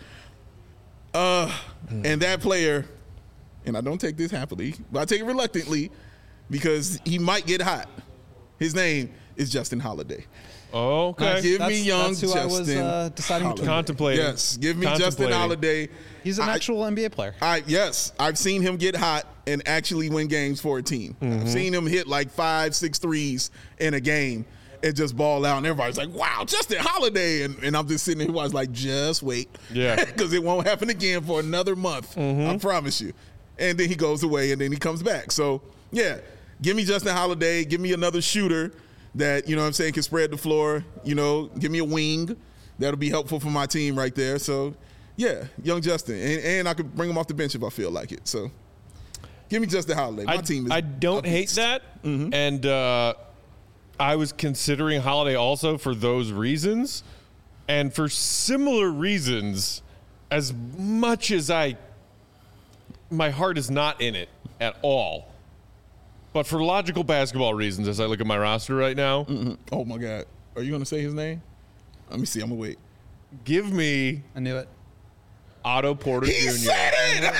Uh, and that player, and I don't take this happily, but I take it reluctantly because he might get hot. His name is Justin Holiday. Oh, okay. Give me That's- young that's who Justin I was, uh, deciding Holiday. between. Contemplating. Yes, give me Justin Contemplating. Holiday. He's an I- actual N B A player. I yes, I've seen him get hot and actually win games for a team. I've seen him hit like five, six threes in a game and just ball out, and everybody's like, "Wow, Justin Holiday!" And, and I'm just sitting there, I was like, "Just wait, Yeah. because it won't happen again for another month. I promise you." And then he goes away, and then he comes back. So yeah, give me Justin Holiday. Give me another shooter that you know what I'm saying can spread the floor. You know, give me a wing that'll be helpful for my team right there. So. Yeah, young Justin, and, and I could bring him off the bench if I feel like it. So, give me Justin Holiday. My I, team is. I don't up hate east. that, and uh, I was considering Holiday also for those reasons, and for similar reasons. As much as I, my heart is not in it at all. But for logical basketball reasons, as I look at my roster right now. Mm-hmm. Oh, my God. Are you going to say his name? Let me see. I'm going to wait. Give me I knew it. Otto Porter He Junior said it!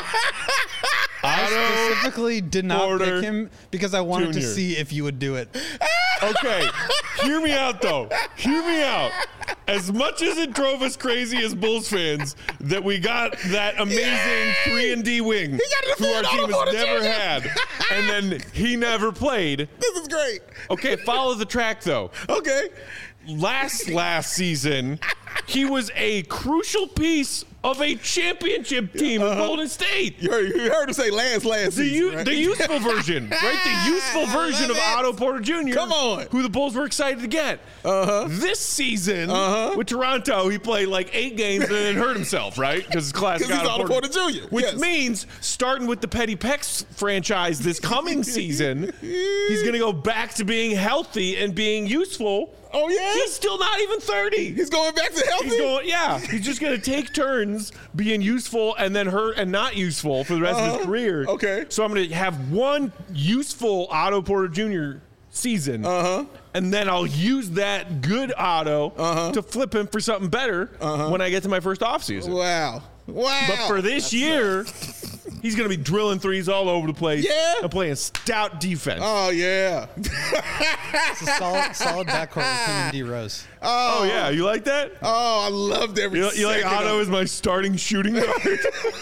I specifically did not Porter pick him because I wanted Junior to see if you would do it. Okay, hear me out, though. Hear me out. As much as it drove us crazy as Bulls fans that we got that amazing three and D wing who our team has never had, and then he never played. This is great. Okay, follow the track, though. Okay. Last, last season, he was a crucial piece of a championship team in Golden State. You heard, you heard him say last, last The, season, u- right? the useful version, right? The useful version of it. Otto Porter Junior Come on. Who the Bulls were excited to get. Uh-huh. This season, Uh-huh. with Toronto, he played like eight games and then hurt himself, right? Because his classic Because he's Otto Porter Junior Which Yes. means, starting with the Petty Pex franchise this coming season, he's going to go back to being healthy and being useful. Oh, yeah? He's still not even thirty. He's going back to healthy? He's going, yeah. He's just going to take turns being useful and then hurt and not useful for the rest of Uh-huh. his career. Okay. So I'm going to have one useful Otto Porter Junior season, Uh-huh. and then I'll use that good Otto Uh-huh. to flip him for something better when I get to my first offseason. Wow. Wow. But for this year, he's going to be drilling threes all over the place Yeah. and playing stout defense. Oh, yeah. It's a solid, solid backcourt with him and D Rose. oh, yeah. You like that? Oh, I loved every You, you like second Otto of as my starting shooting guard?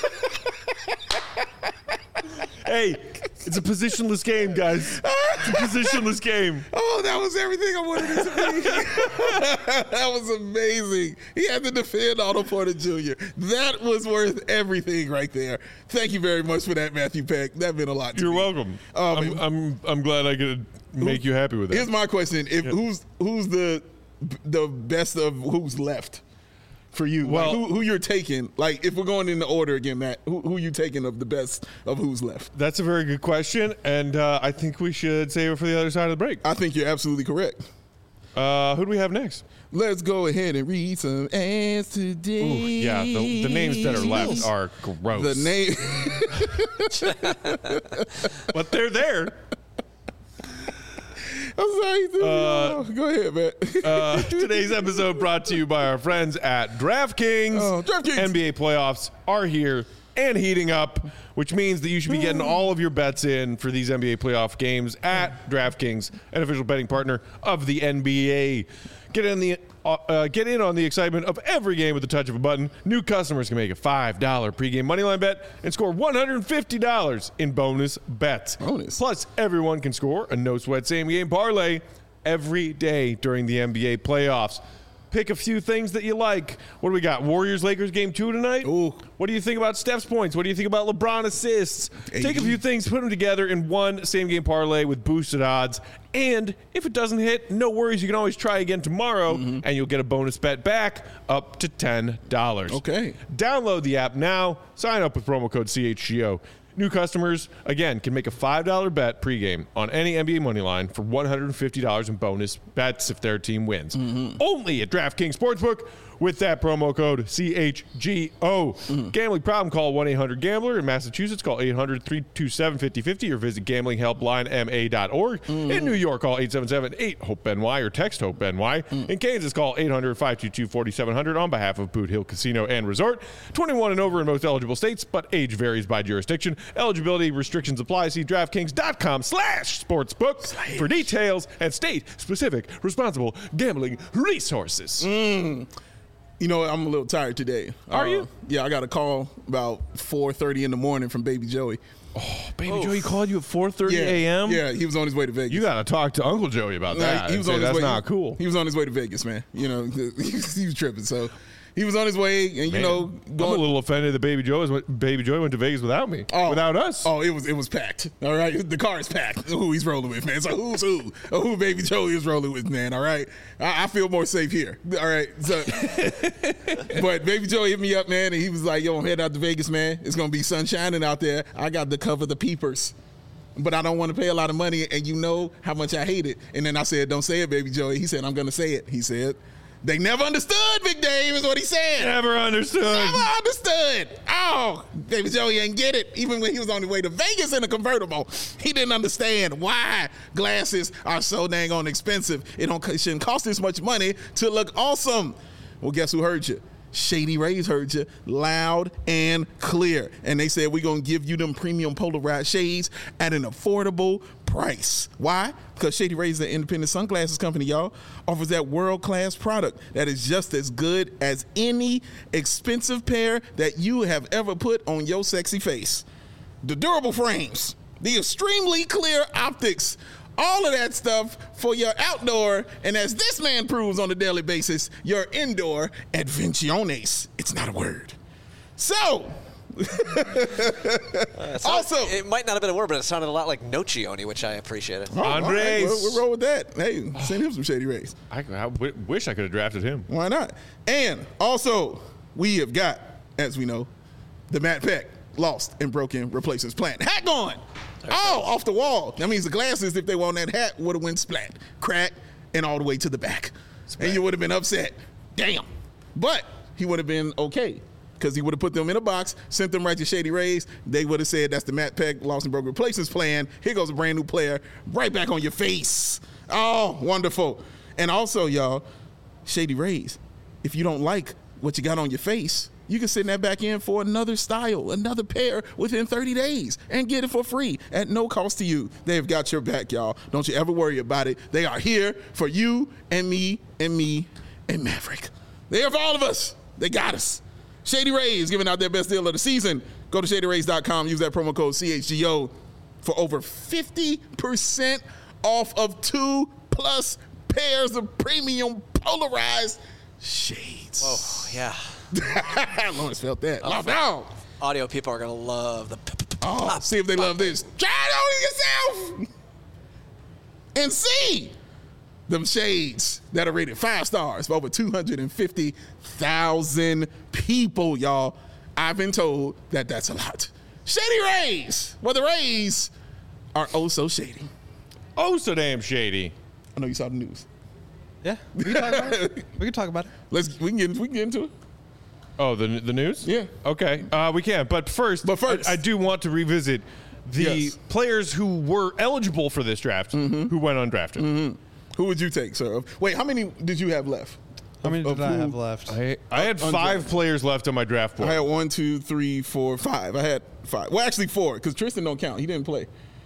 Hey, it's a positionless game, guys. It's a positionless game. Oh, that was everything I wanted it to be. That was amazing. He had to defend Otto Porter Junior That was worth everything right there. Thank you very much for that, Matthew Peck. That meant a lot to You're me. welcome. Oh, I'm, man. I'm I'm glad I could make you happy with that. Here's my question: If who's who's the the best of who's left for you? Like, Well- who, who you're taking? Like, if we're going in the order again, Matt, who, who you taking of the best of who's left? That's a very good question, and uh, I think we should save it for the other side of the break. I think you're absolutely correct. Uh, who do we have next? Let's go ahead and read some ads today. Ooh, yeah, the, the names that are left are gross. The name. but they're there. I'm sorry. Uh, go ahead, man. Uh, today's episode brought to you by our friends at DraftKings. Oh, DraftKings. N B A playoffs are here and heating up, which means that you should be getting all of your bets in for these N B A playoff games at DraftKings, an official betting partner of the N B A. Get in the uh, uh, get in on the excitement of every game with the touch of a button. New customers can make a five dollar pregame moneyline bet and score one hundred fifty dollars in bonus bets. Bonus. Plus, everyone can score a no-sweat same-game parlay every day during the N B A playoffs. Pick a few things that you like. What do we got? Warriors-Lakers game two tonight? Ooh. What do you think about Steph's points? What do you think about LeBron assists? Hey. Take a few things, put them together in one same-game parlay with boosted odds. And if it doesn't hit, no worries. You can always try again tomorrow, Mm-hmm. and you'll get a bonus bet back up to ten dollars. Okay. Download the app now. Sign up with promo code C H G O. New customers, again, can make a five dollar bet pregame on any N B A money line for one hundred fifty dollars in bonus bets if their team wins. Mm-hmm. Only at DraftKings Sportsbook with that promo code C H G O. Mm-hmm. Gambling problem, call one eight hundred gambler. In Massachusetts, call eight hundred, three two seven, five oh five oh or visit gambling helpline m a dot org. Mm-hmm. In New York, call eight seven seven, eight, hope N Y or text HOPE-NY. Mm. In Kansas, call eight hundred, five two two, four seven zero zero on behalf of Boot Hill Casino and Resort. twenty-one and over in most eligible states, but age varies by jurisdiction. Eligibility restrictions apply. See DraftKings.com slash sportsbook for details and state-specific responsible gambling resources. Mm. You know, I'm a little tired today. Are Uh, you? Yeah, I got a call about four thirty in the morning from Baby Joey. Baby Joey called you at four thirty Yeah, a.m.? Yeah, he was on his way to Vegas. You got to talk to Uncle Joey about Like, that. he and was say on his that's way. not cool. He was on his way to Vegas, man. You know, he was, he was tripping. So he was on his way, and you Man, know, I'm a going. little offended that Baby Joey, was, Baby Joey went to Vegas without me, Oh. without us. Oh, it was it was packed. All right, the car is packed. Who he's rolling with, man. So who's who? Or who Baby Joey is rolling with, man. All right, I, I feel more safe here. All right, so but Baby Joey hit me up, man, and he was like, "Yo, I'm heading out to Vegas, man. It's gonna be sun shining out there. I got to cover the peepers." but I don't want to pay a lot of money, and you know how much I hate it. And then I said, don't say it, baby Joey. He said, I'm going to say it. He said, they never understood, Big Dave, is what he said. Never understood. Never understood. Oh, Baby Joey didn't get it. Even when he was on the way to Vegas in a convertible, he didn't understand why glasses are so dang on expensive. It, don't, it shouldn't cost this much money to look awesome. Well, guess who heard you? Shady Rays heard you loud and clear. And they said, we're going to give you them premium polarized shades at an affordable price. Why? Because Shady Rays, the independent sunglasses company, y'all, offers that world-class product that is just as good as any expensive pair that you have ever put on your sexy face. The durable frames, the extremely clear optics, all of that stuff for your outdoor, and as this man proves on a daily basis, your indoor advenciones. It's not a word. So, uh, also, it might not have been a word, but it sounded a lot like Nocioni, which I appreciated. Oh, Andres. all right, we'll, we'll roll with that. Hey, send him some Shady Rays. I, I w- wish I could have drafted him. Why not? And also, we have got, as we know, the Matt Peck lost and broken replacements plan. Hat gone. Oh, off the wall. That means the glasses, if they were on that hat, would have went splat, crack, and all the way to the back. Splat. And you would have been upset. Damn. But he would have been okay because he would have put them in a box, sent them right to Shady Rays. They would have said, that's the Matt Peck lost and broken replacements plan. Here goes a brand new player right back on your face. Oh, wonderful. And also, y'all, Shady Rays, if you don't like what you got on your face, you can send that back in for another style, another pair within thirty days and get it for free at no cost to you. They've got your back, y'all. Don't you ever worry about it. They are here for you and me and me and Maverick. They're for all of us. They got us. Shady Rays giving out their best deal of the season. Go to shady rays dot com. Use that promo code C H G O for over fifty percent off of two plus pairs of premium polarized shades. Whoa, yeah. Lawrence felt that. Oh, Lost out. Audio people are going to love the Oh, see if they love this. Try it on yourself and see them shades that are rated five stars for over two hundred fifty thousand people, y'all. I've been told that that's a lot. Shady Rays. Well, the Rays are oh so shady. Oh, so damn shady. I know you saw the news. Yeah, we can talk about it. We can talk about it. Let's we can get we can get into it. Oh, the the news? Yeah. Okay, uh, we can. But first, But first. I, I do want to revisit the Yes. players who were eligible for this draft Mm-hmm. who went undrafted. Mm-hmm. Who would you take, sir? Wait, how many did you have left? How many Of- did of I who- have left? I, I had Undrafted. five players left on my draft board. I had one, two, three, four, five. I had five. Well, actually four, because Tristan don't count. He didn't play.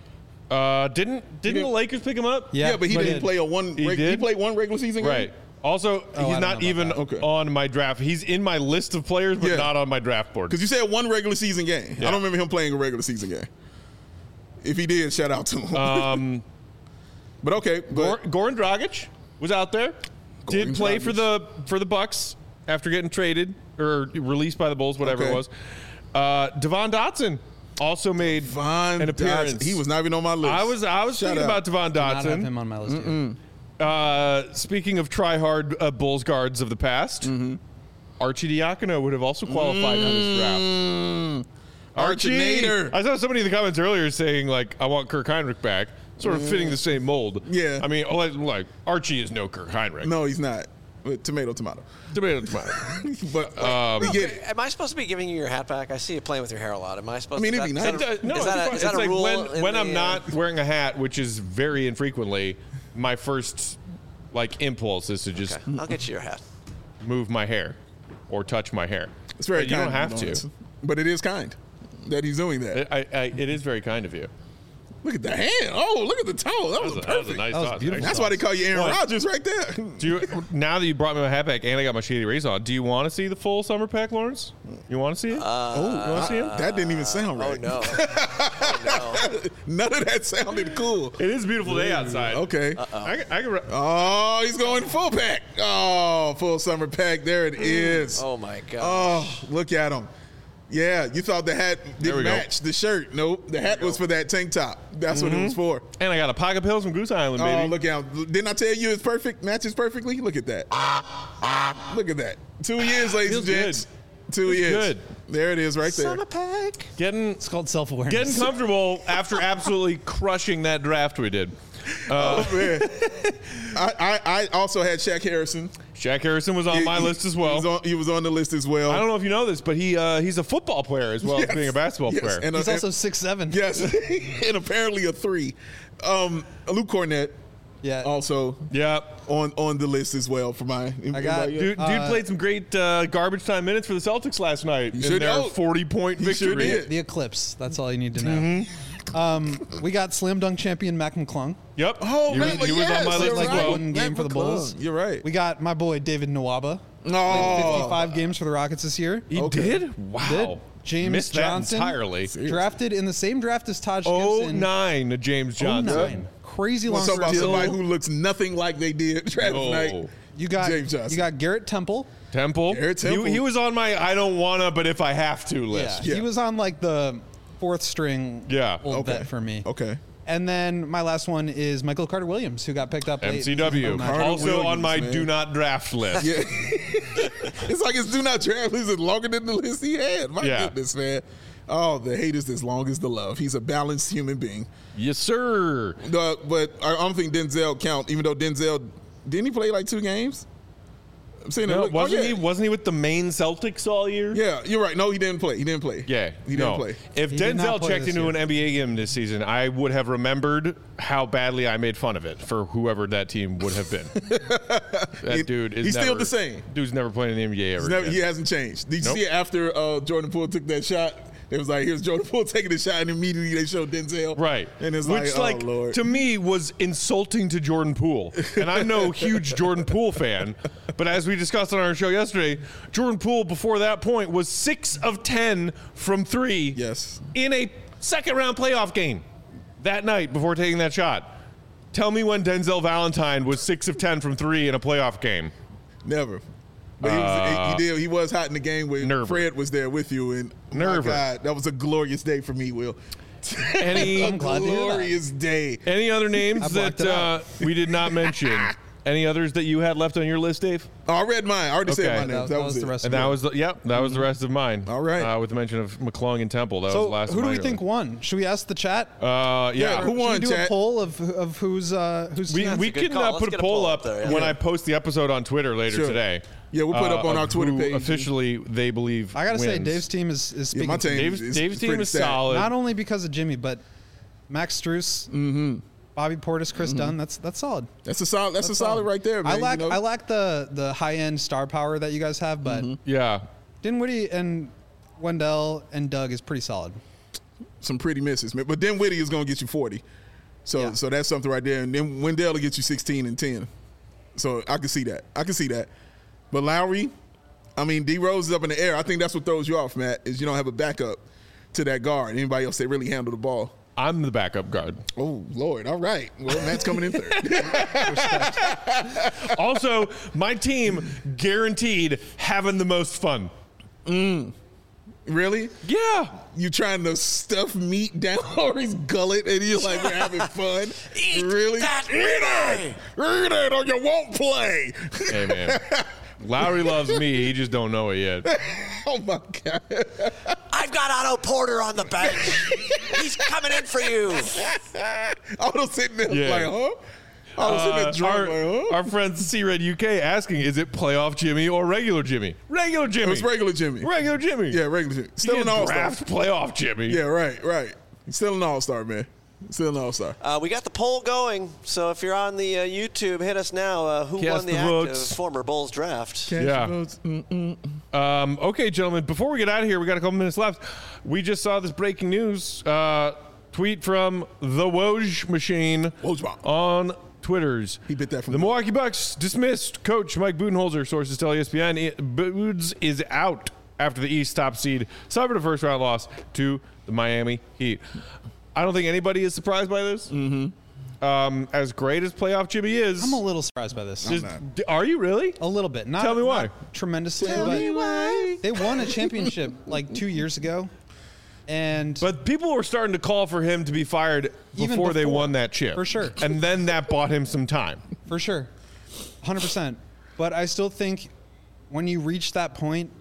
Uh, didn't didn't didn't- the Lakers pick him up? Yeah, Yeah, but he but didn't did. play a one. He reg- he did? played one regular season game. Right. Also, I he's don't not know even about that. Okay. on my draft. He's in my list of players, but Yeah. not on my draft board. Because you said one regular season game. Yeah. I don't remember him playing a regular season game. If he did, shout out to him. Um, but okay, Gor- but Goran Dragic was out there. Goran Did play for Dragic. the for the Bucks after getting traded or released by the Bulls, whatever Okay. it was. Uh, Devon Dotson also made Von an appearance. Dotson, he was not even on my list. I was I was Shout thinking out. about Devon Did not have Dotson. him on my list. Yet. Uh, speaking of try-hard uh, Bulls guards of the past, Mm-hmm. Archie Diacono would have also qualified on this draft. Mm, Archie, Archinator. I saw somebody in the comments earlier saying like, "I want Kirk Heinrich back," sort of fitting the same mold. Yeah. I mean, like, like Archie is no Kirk Heinrich. No, he's not. But tomato, tomato. Tomato, tomato. But Um, we get it. Am I supposed to be giving you your hat back? I see you playing with your hair a lot. Am I supposed I mean, to? it'd be is nice. that- It does- no, is it's that a, fine. is that It's a like rule? when, in when the, I'm uh, not wearing a hat, which is very infrequently, my first like impulse is to just Okay, I'll get you your hat. move my hair or touch my hair. It's very But you kind don't have of to. Lawrence. But it is kind that he's doing that. It, I, I, it is very kind of you. Look at the hand. Oh, look at the toe. That, That was, was, a, that was a perfect. nice That was toss, beautiful. actually. That's why they call you Aaron What? Rodgers right there. Do you, now that you brought me my hat back and I got my Shady Rays on, do you want to see the full summer pack, Lawrence? You want to see it? oh, you want to see it? that didn't even sound Oh right. no! Oh no! None of that sounded cool. It is a beautiful day outside. Okay. I, can- I can, re- Oh, he's going full pack. Oh, full summer pack. There it is. Oh my God! Oh, look at him. Yeah, you thought the hat There didn't we go. match the shirt. Nope, the hat was for that tank top. That's what it was for. and I got a pocket pills from Goose Island, baby. Oh, look out. Didn't I tell you it's perfect? Matches perfectly? Look at that. Look at that. Two years, ladies Feels and gents. good. Two Feels years. good. There it is right there. Summer pack. Getting It's called self-awareness. getting comfortable after absolutely crushing that draft we did. Uh, Oh, man. I, I, I also had Shaq Harrison. Shaq Harrison was on He- my he- list as He well. was on, he was on the list as well. I don't know if you know this, but he uh, he's a football player as well Yes. as being a basketball Yes. player. And, uh, He's also six seven. yes, and apparently a three. Um, Luke Cornett Yeah. also yeah. on, on the list as well for my. I got- Dude, dude Uh, played some great uh, garbage time minutes for the Celtics last night in sure their did. forty-point He sure victory. did. The Eclipse. That's all you need to know. Mm-hmm. Um, we got slam dunk champion Mac McClung. Yep. Oh, he man, was, he was yes, on my you're list as right. well. One game Matt for the Bulls. McClung. You're right. We got my boy David Nwaba. Oh, fifty-five games for the Rockets this year. He Okay. did? Wow. Did. James Missed Johnson. that entirely. Drafted in the same draft as Taj Oh Gibson. nine to James Johnson. oh nine. Crazy Want long to talk about career. somebody who looks nothing like they did draft No. night? You got James Johnson. you got Garrett Temple. Temple. Garrett He- Temple. He, was on my I don't wanna, but if I have to Yeah, list. Yeah. he was on like the fourth string. Yeah. old Okay. vet for me. Okay. And then my last one is Michael Carter Williams, who got picked up late. M C W. Carter Also on Williams, my man. do not draft list. Yeah. It's like his do not draft list is longer than the list he had. My Yeah. goodness, man. Oh, the hate is as long as the love. He's a balanced human being. Yes, sir. Uh, but I I don't think Denzel count, even though Denzel didn't he play like two games? I'm saying No, that. wasn't oh, yeah. he wasn't he with the Maine Celtics all year? Yeah, you're right. No, he didn't play. He didn't play. Yeah, he no. didn't play. If He did not Denzel play checked this into year. an N B A game this season, I would have remembered how badly I made fun of it for whoever that team would have been. that He- dude is he's still never- the same. Dude's never played in the N B A ever. He's never, again. he hasn't changed. Did you Nope. see it after uh, Jordan Poole took that shot? It was like, here's Jordan Poole taking the shot, and immediately they showed Denzel. Right. And it's Which, like, like, oh, Lord. to me was insulting to Jordan Poole. And I'm no huge Jordan Poole fan. But as we discussed on our show yesterday, Jordan Poole before that point was six of ten from three Yes. in a second round playoff game that night before taking that shot. Tell me when Denzel Valentine was six of ten from three in a playoff game. Never. But he, was, he did. He was hot in the game when Nerver. Fred was there with you, and my Nerver. God, that was a glorious day for me, Will. Any a I'm glad to hear that. glorious day. any other names I that blocked it uh, out. we did not mention? Any others that you had left on your list, Dave? Oh, I read mine. I already Okay. said my That- name. That, that was, was it. the rest And that was the yep, that was the rest of mine. All right. Uh, with the mention of McClung and Temple. That was the So last who of do we mine. think won? Should we ask the chat? Uh, yeah. Yeah, who Should won, we do chat? a poll of of who's uh who's We, team? we a good can call. uh, Let's put a get a poll poll up up there, yeah. when Yeah. I post the episode on Twitter later Sure. today. Yeah, we'll put it uh, up on of our Twitter who page. Officially, they believe I gotta say, wins. Dave's team is is Yeah, speaking. my to me. team Dave's, is Dave's team pretty is stacked. solid. Not only because of Jimmy, but Max Struess, Mm-hmm. Bobby Portis, Chris Dunn. That's that's solid. That's a solid. That's, That's a solid solid. right there, man. I lack you know? I lack the the high end star power that you guys have, but yeah. Dinwiddie and Wendell and Doug is pretty solid. some pretty misses, man. But then Whitty is going to get you forty. So Yeah. so that's something right there. And then Wendell will get you sixteen and ten. So I can see that. I can see that. But Lowry, I mean, D Rose is up in the air. I think that's what throws you off, Matt, is you don't have a backup to that guard. Anybody else that really handle the ball. I'm the backup guard. Oh, Lord. All right. Well, Matt's coming in third. Also, my team guaranteed having the most fun. Really? Yeah. You trying to stuff meat down Lowry's gullet and you're like, we're having fun? Eat really? that Eat it! Eat it or you won't play. Hey, man. Lowry loves me. He just don't know it yet. Oh, my God. I've got Otto Porter on the bench. He's coming in for you. I was sitting there Yeah. like, huh? I was sitting there Uh, drunk our, like, huh? our friend C-Red U K asking, is it playoff Jimmy or regular Jimmy? Regular It Jimmy. was regular Jimmy. Regular Jimmy. Yeah, regular Jimmy. You Still an can't all-star. draft playoff Jimmy. Yeah, right, right. Still an all-star, man. Still an all-star. Uh, we got the poll going, so if you're on the uh, YouTube, hit us now. Uh, who Cast won the, the active votes. former Bulls draft? Yeah. Votes. Mm-mm. Um, okay, gentlemen, before we get out of here, we got a couple minutes left. We just saw this breaking news uh, tweet from the Woj machine Woj. on Twitter's. He bit that from the the- Milwaukee Bucks dismissed coach Mike Budenholzer. Sources tell E S P N it- Budes is out after the East top seed suffered a first round loss to the Miami Heat. I don't think anybody is surprised by this. Mm-hmm. Um, as great as playoff Jimmy is, I'm a little surprised by this. just- not. d- are you really? A little bit. Not, Tell me why. not tremendously, Tell but me why. they won a championship like two years ago, and But people were starting to call for him to be fired Even before, they before, won that chip. for sure. And then that bought him some time. for sure, one hundred percent. But I still think when you reach that point,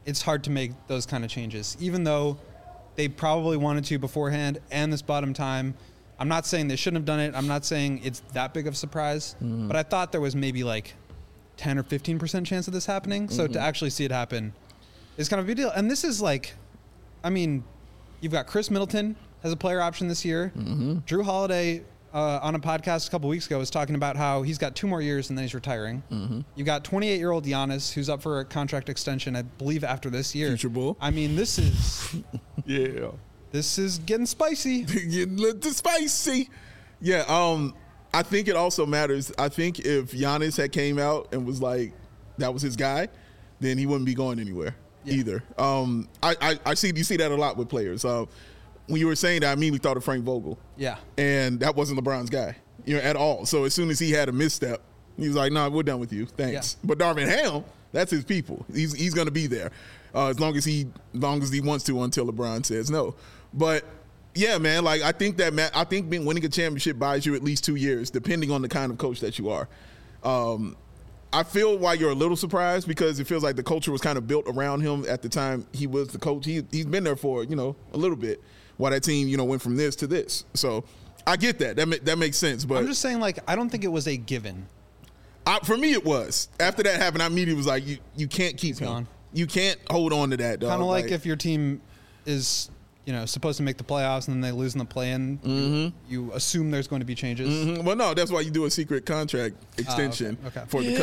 it's hard to make those kind of changes, even though they probably wanted to beforehand and this bottom time. I'm not saying they shouldn't have done it. I'm not saying it's that big of a surprise, mm-hmm. but I thought there was maybe like ten or fifteen percent chance of this happening. So mm-hmm. to actually see it happen is kind of a big deal. And this is like, I mean, you've got Chris Middleton as a player option this year. Mm-hmm. Drew Holiday uh, on a podcast a couple weeks ago was talking about how he's got two more years and then he's retiring. Mm-hmm. You've got twenty-eight-year-old Giannis who's up for a contract extension, I believe, after this year. Future Bull. I mean, this is... yeah. This is getting spicy. Getting a little spicy. Yeah, um, I think it also matters. I think if Giannis had came out and was like, that was his guy, then he wouldn't be going anywhere yeah. either. Um, I, I, I see you see that a lot with players. Uh, when you were saying that, I immediately thought of Frank Vogel. Yeah. And that wasn't LeBron's guy, you know, at all. So as soon as he had a misstep, he was like, nah, we're done with you. Thanks. Yeah. But Darvin Ham, that's his people. He's he's going to be there uh, as long as he as long as he wants to until LeBron says no. But yeah, man, like I think that man, I think being, winning a championship buys you at least two years, depending on the kind of coach that you are. Um, I feel why you're a little surprised because it feels like the culture was kind of built around him at the time he was the coach. He he's been there for you know a little bit while that team you know went from this to this. So I get that. That ma- that makes sense. But I'm just saying, like, I don't think it was a given. I, for me, it was. After that happened, I immediately was like, you you can't keep He's him. Gone. You can't hold on to that, dog. Kind of like, like if your team is, you know, supposed to make the playoffs and then they lose in the play-in, mm-hmm. you, you assume there's going to be changes. Mm-hmm. Well, no, that's why you do a secret contract extension uh, okay. Okay. for the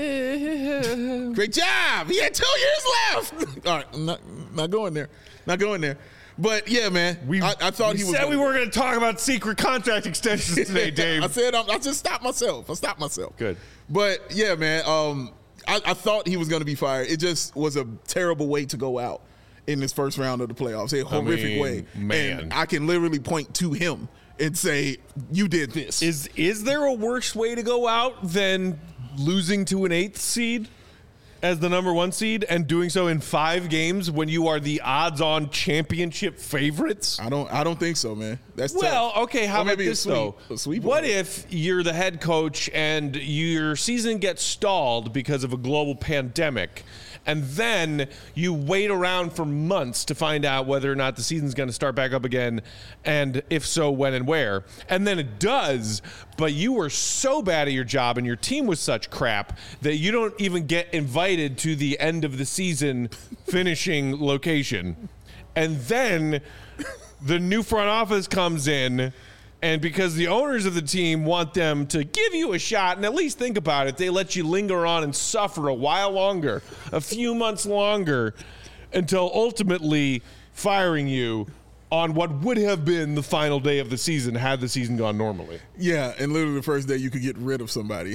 coach. Great job. He had two years left. All right, I'm not, not going there. Not going there. But, yeah, man, we, I, I thought we he was said gonna, we weren't going to talk about secret contract extensions today, Dave. I said I, I just stopped myself. I stopped myself. Good. But, yeah, man, um, I, I thought he was going to be fired. It just was a terrible way to go out in this first round of the playoffs. A horrific I mean, way. Man. And I can literally point to him and say, you did this. Is is there a worse way to go out than losing to an eighth seed as the number one seed and doing so in five games when you are the odds-on championship favorites? I don't I don't think so, man. That's well, tough. okay, how or about maybe this, a sweep, though? A sweep what if you're the head coach and your season gets stalled because of a global pandemic, and then you wait around for months to find out whether or not the season's going to start back up again, and if so, when and where, and then it does, but you were so bad at your job and your team was such crap that you don't even get invited to the end of the season finishing location. And then the new front office comes in, and because the owners of the team want them to give you a shot and at least think about it, they let you linger on and suffer a while longer, a few months longer, until ultimately firing you on what would have been the final day of the season had the season gone normally. Yeah, and literally the first day you could get rid of somebody.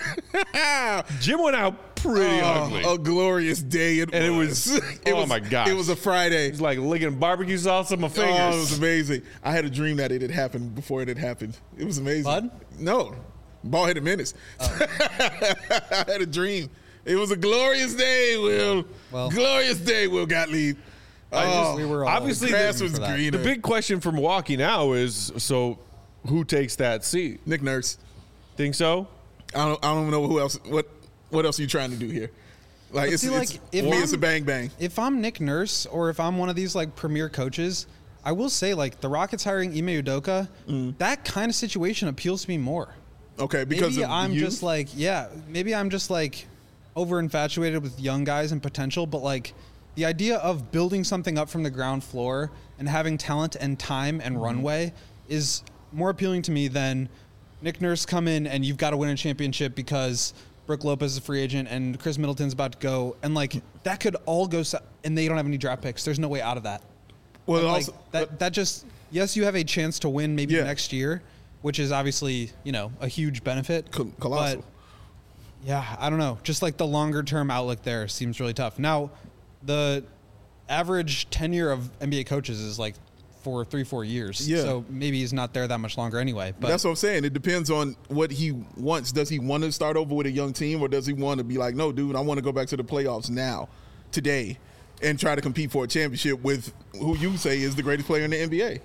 Jim went out pretty oh, ugly. A glorious day it and was. it was. it oh was, my gosh. It was a Friday. It was like licking barbecue sauce on my fingers. Oh, it was amazing. I had a dream that it had happened before it had happened. It was amazing. Bud? No. Ball-headed menace. Oh. I had a dream. It was a glorious day, Will. Well, glorious day, Will Gottlieb. I just, oh, we were all obviously the grass the, was greener. The big question for Milwaukee now is: so, who takes that seat? Nick Nurse. Think so? I don't. I don't know who else. What What else are you trying to do here? Like, it's, see, it's like, if for me, I'm, it's a bang bang. If I'm Nick Nurse or if I'm one of these like premier coaches, I will say like the Rockets hiring Ime Udoka, mm. that kind of situation appeals to me more. Okay, because maybe of I'm youth? just like yeah, maybe I'm just like over infatuated with young guys and potential, but like. The idea of building something up from the ground floor and having talent and time and mm-hmm. runway is more appealing to me than Nick Nurse come in and you've got to win a championship because Brook Lopez is a free agent and Chris Middleton's about to go. And, like, that could all go – and they don't have any draft picks. There's no way out of that. Well, like, also, that, that just – yes, you have a chance to win maybe yeah. next year, which is obviously, you know, a huge benefit. Col- colossal. But, yeah, I don't know. Just, like, the longer-term outlook there seems really tough. Now – the average tenure of N B A coaches is like for three, four years. Yeah. So maybe he's not there that much longer anyway. But that's what I'm saying. It depends on what he wants. Does he want to start over with a young team, or does he want to be like, no, dude, I want to go back to the playoffs now, today, and try to compete for a championship with who you say is the greatest player in the N B A?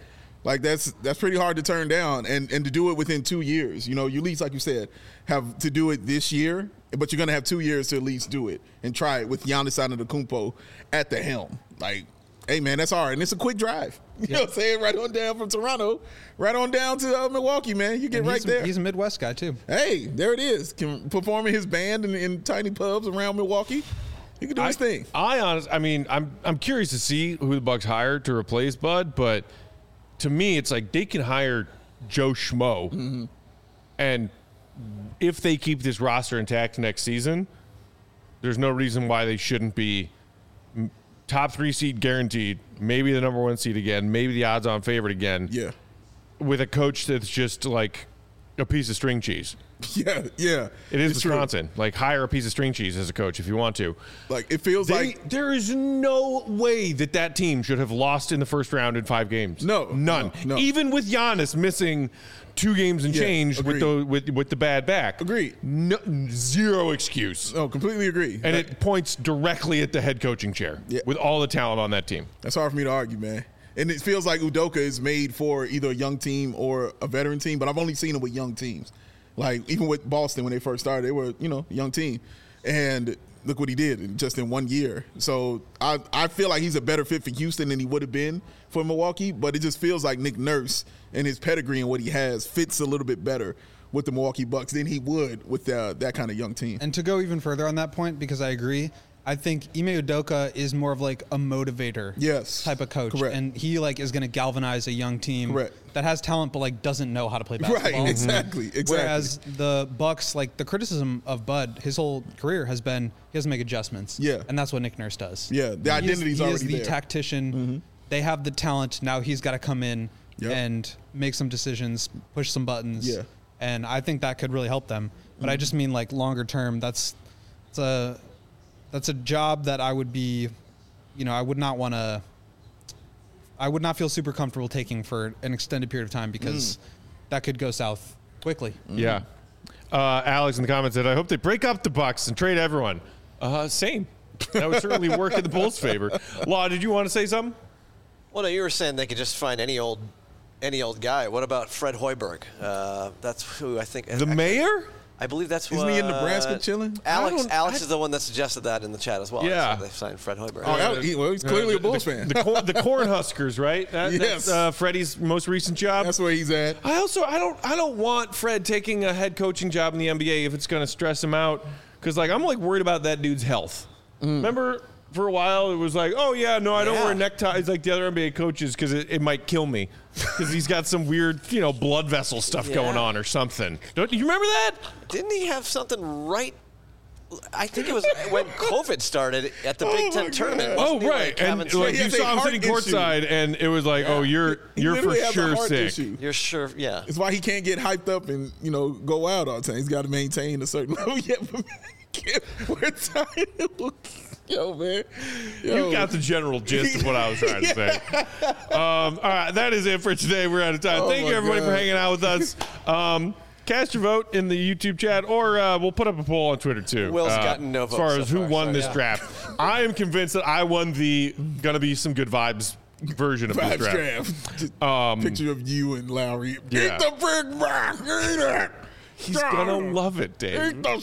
Like that's that's pretty hard to turn down, and and to do it within two years. You know, you at least, like you said, have to do it this year, but you're gonna have two years to at least do it and try it with Giannis Antetokounmpo at the helm. Like, hey man, that's hard, and it's a quick drive. You yep. know what I'm saying? Right on down from Toronto, right on down to uh, Milwaukee, man. You get and right he's, there. He's a Midwest guy too. Hey, there it is. Can performing his band in, in tiny pubs around Milwaukee. He can do I, his thing. I honestly, I mean, I'm I'm curious to see who the Bucks hire to replace Bud, but to me, it's like they can hire Joe Schmo, mm-hmm. and if they keep this roster intact next season, there's no reason why they shouldn't be top three seed guaranteed, maybe the number one seed again, maybe the odds-on favorite again. Yeah, with a coach that's just like a piece of string cheese. Yeah, yeah. It is it's Wisconsin. True. Like, hire a piece of string cheese as a coach if you want to. Like, it feels they, like there is no way that that team should have lost in the first round in five games. No, none. No, no. Even with Giannis missing two games and yeah, change with the with with the bad back. Agreed. No, zero excuse. No, completely agree. And like, it points directly at the head coaching chair yeah. with all the talent on that team. That's hard for me to argue, man. And it feels like Udoka is made for either a young team or a veteran team, but I've only seen it with young teams. Like, even with Boston when they first started, they were, you know, a young team. And look what he did just in one year. So I, I feel like he's a better fit for Houston than he would have been for Milwaukee, but it just feels like Nick Nurse and his pedigree and what he has fits a little bit better with the Milwaukee Bucks than he would with uh, that kind of young team. And to go even further on that point, because I agree, I think Ime Udoka is more of like a motivator yes. type of coach. Correct. And he like is going to galvanize a young team Correct. that has talent but like doesn't know how to play basketball. Right, exactly, exactly. Whereas the Bucks, like the criticism of Bud, his whole career has been he doesn't make adjustments. Yeah. And that's what Nick Nurse does. Yeah, the identity's he already is the there. tactician. Mm-hmm. They have the talent. Now he's got to come in yep. and make some decisions, push some buttons. Yeah. And I think that could really help them. But mm-hmm. I just mean like longer term, that's it's a That's a job that I would be, you know, I would not want to, I would not feel super comfortable taking for an extended period of time because mm. that could go south quickly. Mm. Yeah. Uh, Alex in the comments said, I hope they break up the Bucks and trade everyone. Uh, same. That would certainly work in the Bulls' favor. Law, did you want to say something? Well, no, you were saying they could just find any old any old guy. What about Fred Hoiberg? Uh, that's who I think. The actually, mayor? I believe that's Isn't what. he in Nebraska chilling? Alex Alex I, is the one that suggested that in the chat as well. Yeah. So they signed Fred Hoiberg. Oh, uh, he, well, he's clearly uh, a Bulls the, fan. The, cor- the Cornhuskers, right? That, yes. That's uh, Freddie's most recent job. That's where he's at. I also I don't I don't want Fred taking a head coaching job in the N B A if it's going to stress him out because like I'm like worried about that dude's health. Mm. Remember for a while it was like, oh yeah, no, I don't yeah. wear neckties like the other N B A coaches because it, it might kill me because he's got some weird you know blood vessel stuff yeah. going on or something. Don't you remember that? Didn't he have something right? I think it was when COVID started at the Oh Big Ten my tournament. God. wasn't Oh he, right, like, and having some- like He you has a saw him heart sitting issue. courtside, and it was like, Yeah. oh, you're He you're for literally has a sure heart sick. issue. You're sure, yeah. It's why he can't get hyped up and, you know, go out all the time. He's got to maintain a certain level. Yeah, but we're tired. Yo, man. Yo. You got the general gist of what I was trying to say. Um, all right, that is it for today. We're out of time. Oh Thank my you, everybody, God. for hanging out with us. Um, cast your vote in the YouTube chat, or uh, we'll put up a poll on Twitter, too. Will's uh, gotten no As votes far so as who far, won so this yeah. draft. I am convinced that I won the gonna be some good vibes version of Vibes this draft. draft. Just Um, picture of you and Lowry. yeah. Eat the big rock. Eat it. He's gonna love it, Dave. Eat the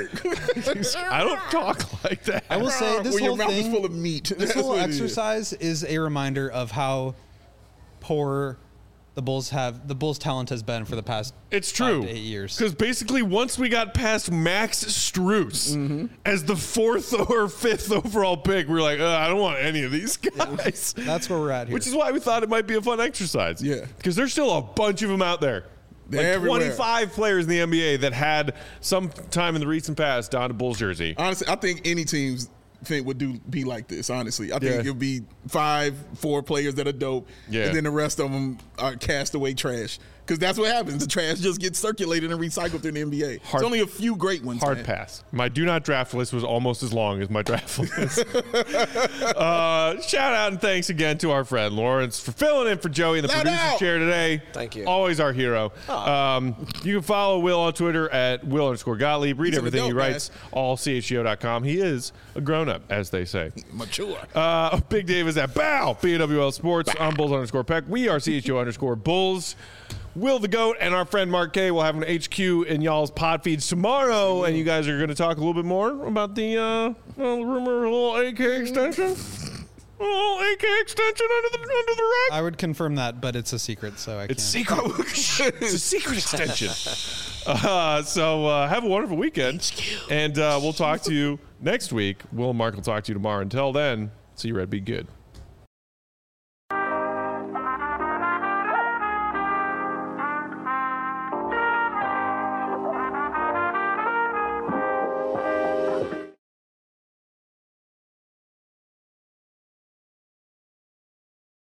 steak. I don't talk like that. I will say this when your whole mouth thing, is full of meat. this That's whole what it is. exercise is a reminder of how poor the Bulls have the Bulls' talent has been for the past It's five true. to eight years. Because basically, once we got past Max Strus Mm-hmm. as the fourth or fifth overall pick, we were like, uh, I don't want any of these guys. That's where we're at here. Which is why we thought it might be a fun exercise. Yeah. Because there's still a bunch of them out there. They're like everywhere. twenty-five players in the N B A that had some time in the recent past donned a Bulls jersey. Honestly, I think any teams think would do be like this. Honestly, I think Yeah. it'll be five, four players that are dope, Yeah. and then the rest of them are castaway trash Because that's what happens. The trash just gets circulated and recycled through the N B A. Hard- There's only a few great ones. Hard man. pass. My do not draft list was almost as long as my draft list. uh, shout out and thanks again to our friend Lawrence for filling in for Joey in the Loud producer's out. chair today. Thank you. Always our hero. Um, you can follow Will on Twitter at Will underscore Gottlieb. Read He's an everything he adult, writes, all C H G O dot com. He is a grown up, as they say. Mature. Uh, Big Dave is at Bow, B A W L Sports. I'm Bulls underscore Peck. We are C H G O underscore Bulls. Will the GOAT and our friend Mark K will have an H Q in y'all's pod feeds tomorrow, and you guys are going to talk a little bit more about the uh, well, rumor, a little A K extension. A little A K extension under the under the rug. I would confirm that, but it's a secret, so I It's can't. secret. It's a secret extension. Uh, so uh, have a wonderful weekend, and uh, we'll talk to you next week. Will and Mark will talk to you tomorrow. Until then, see you, Red. Be good.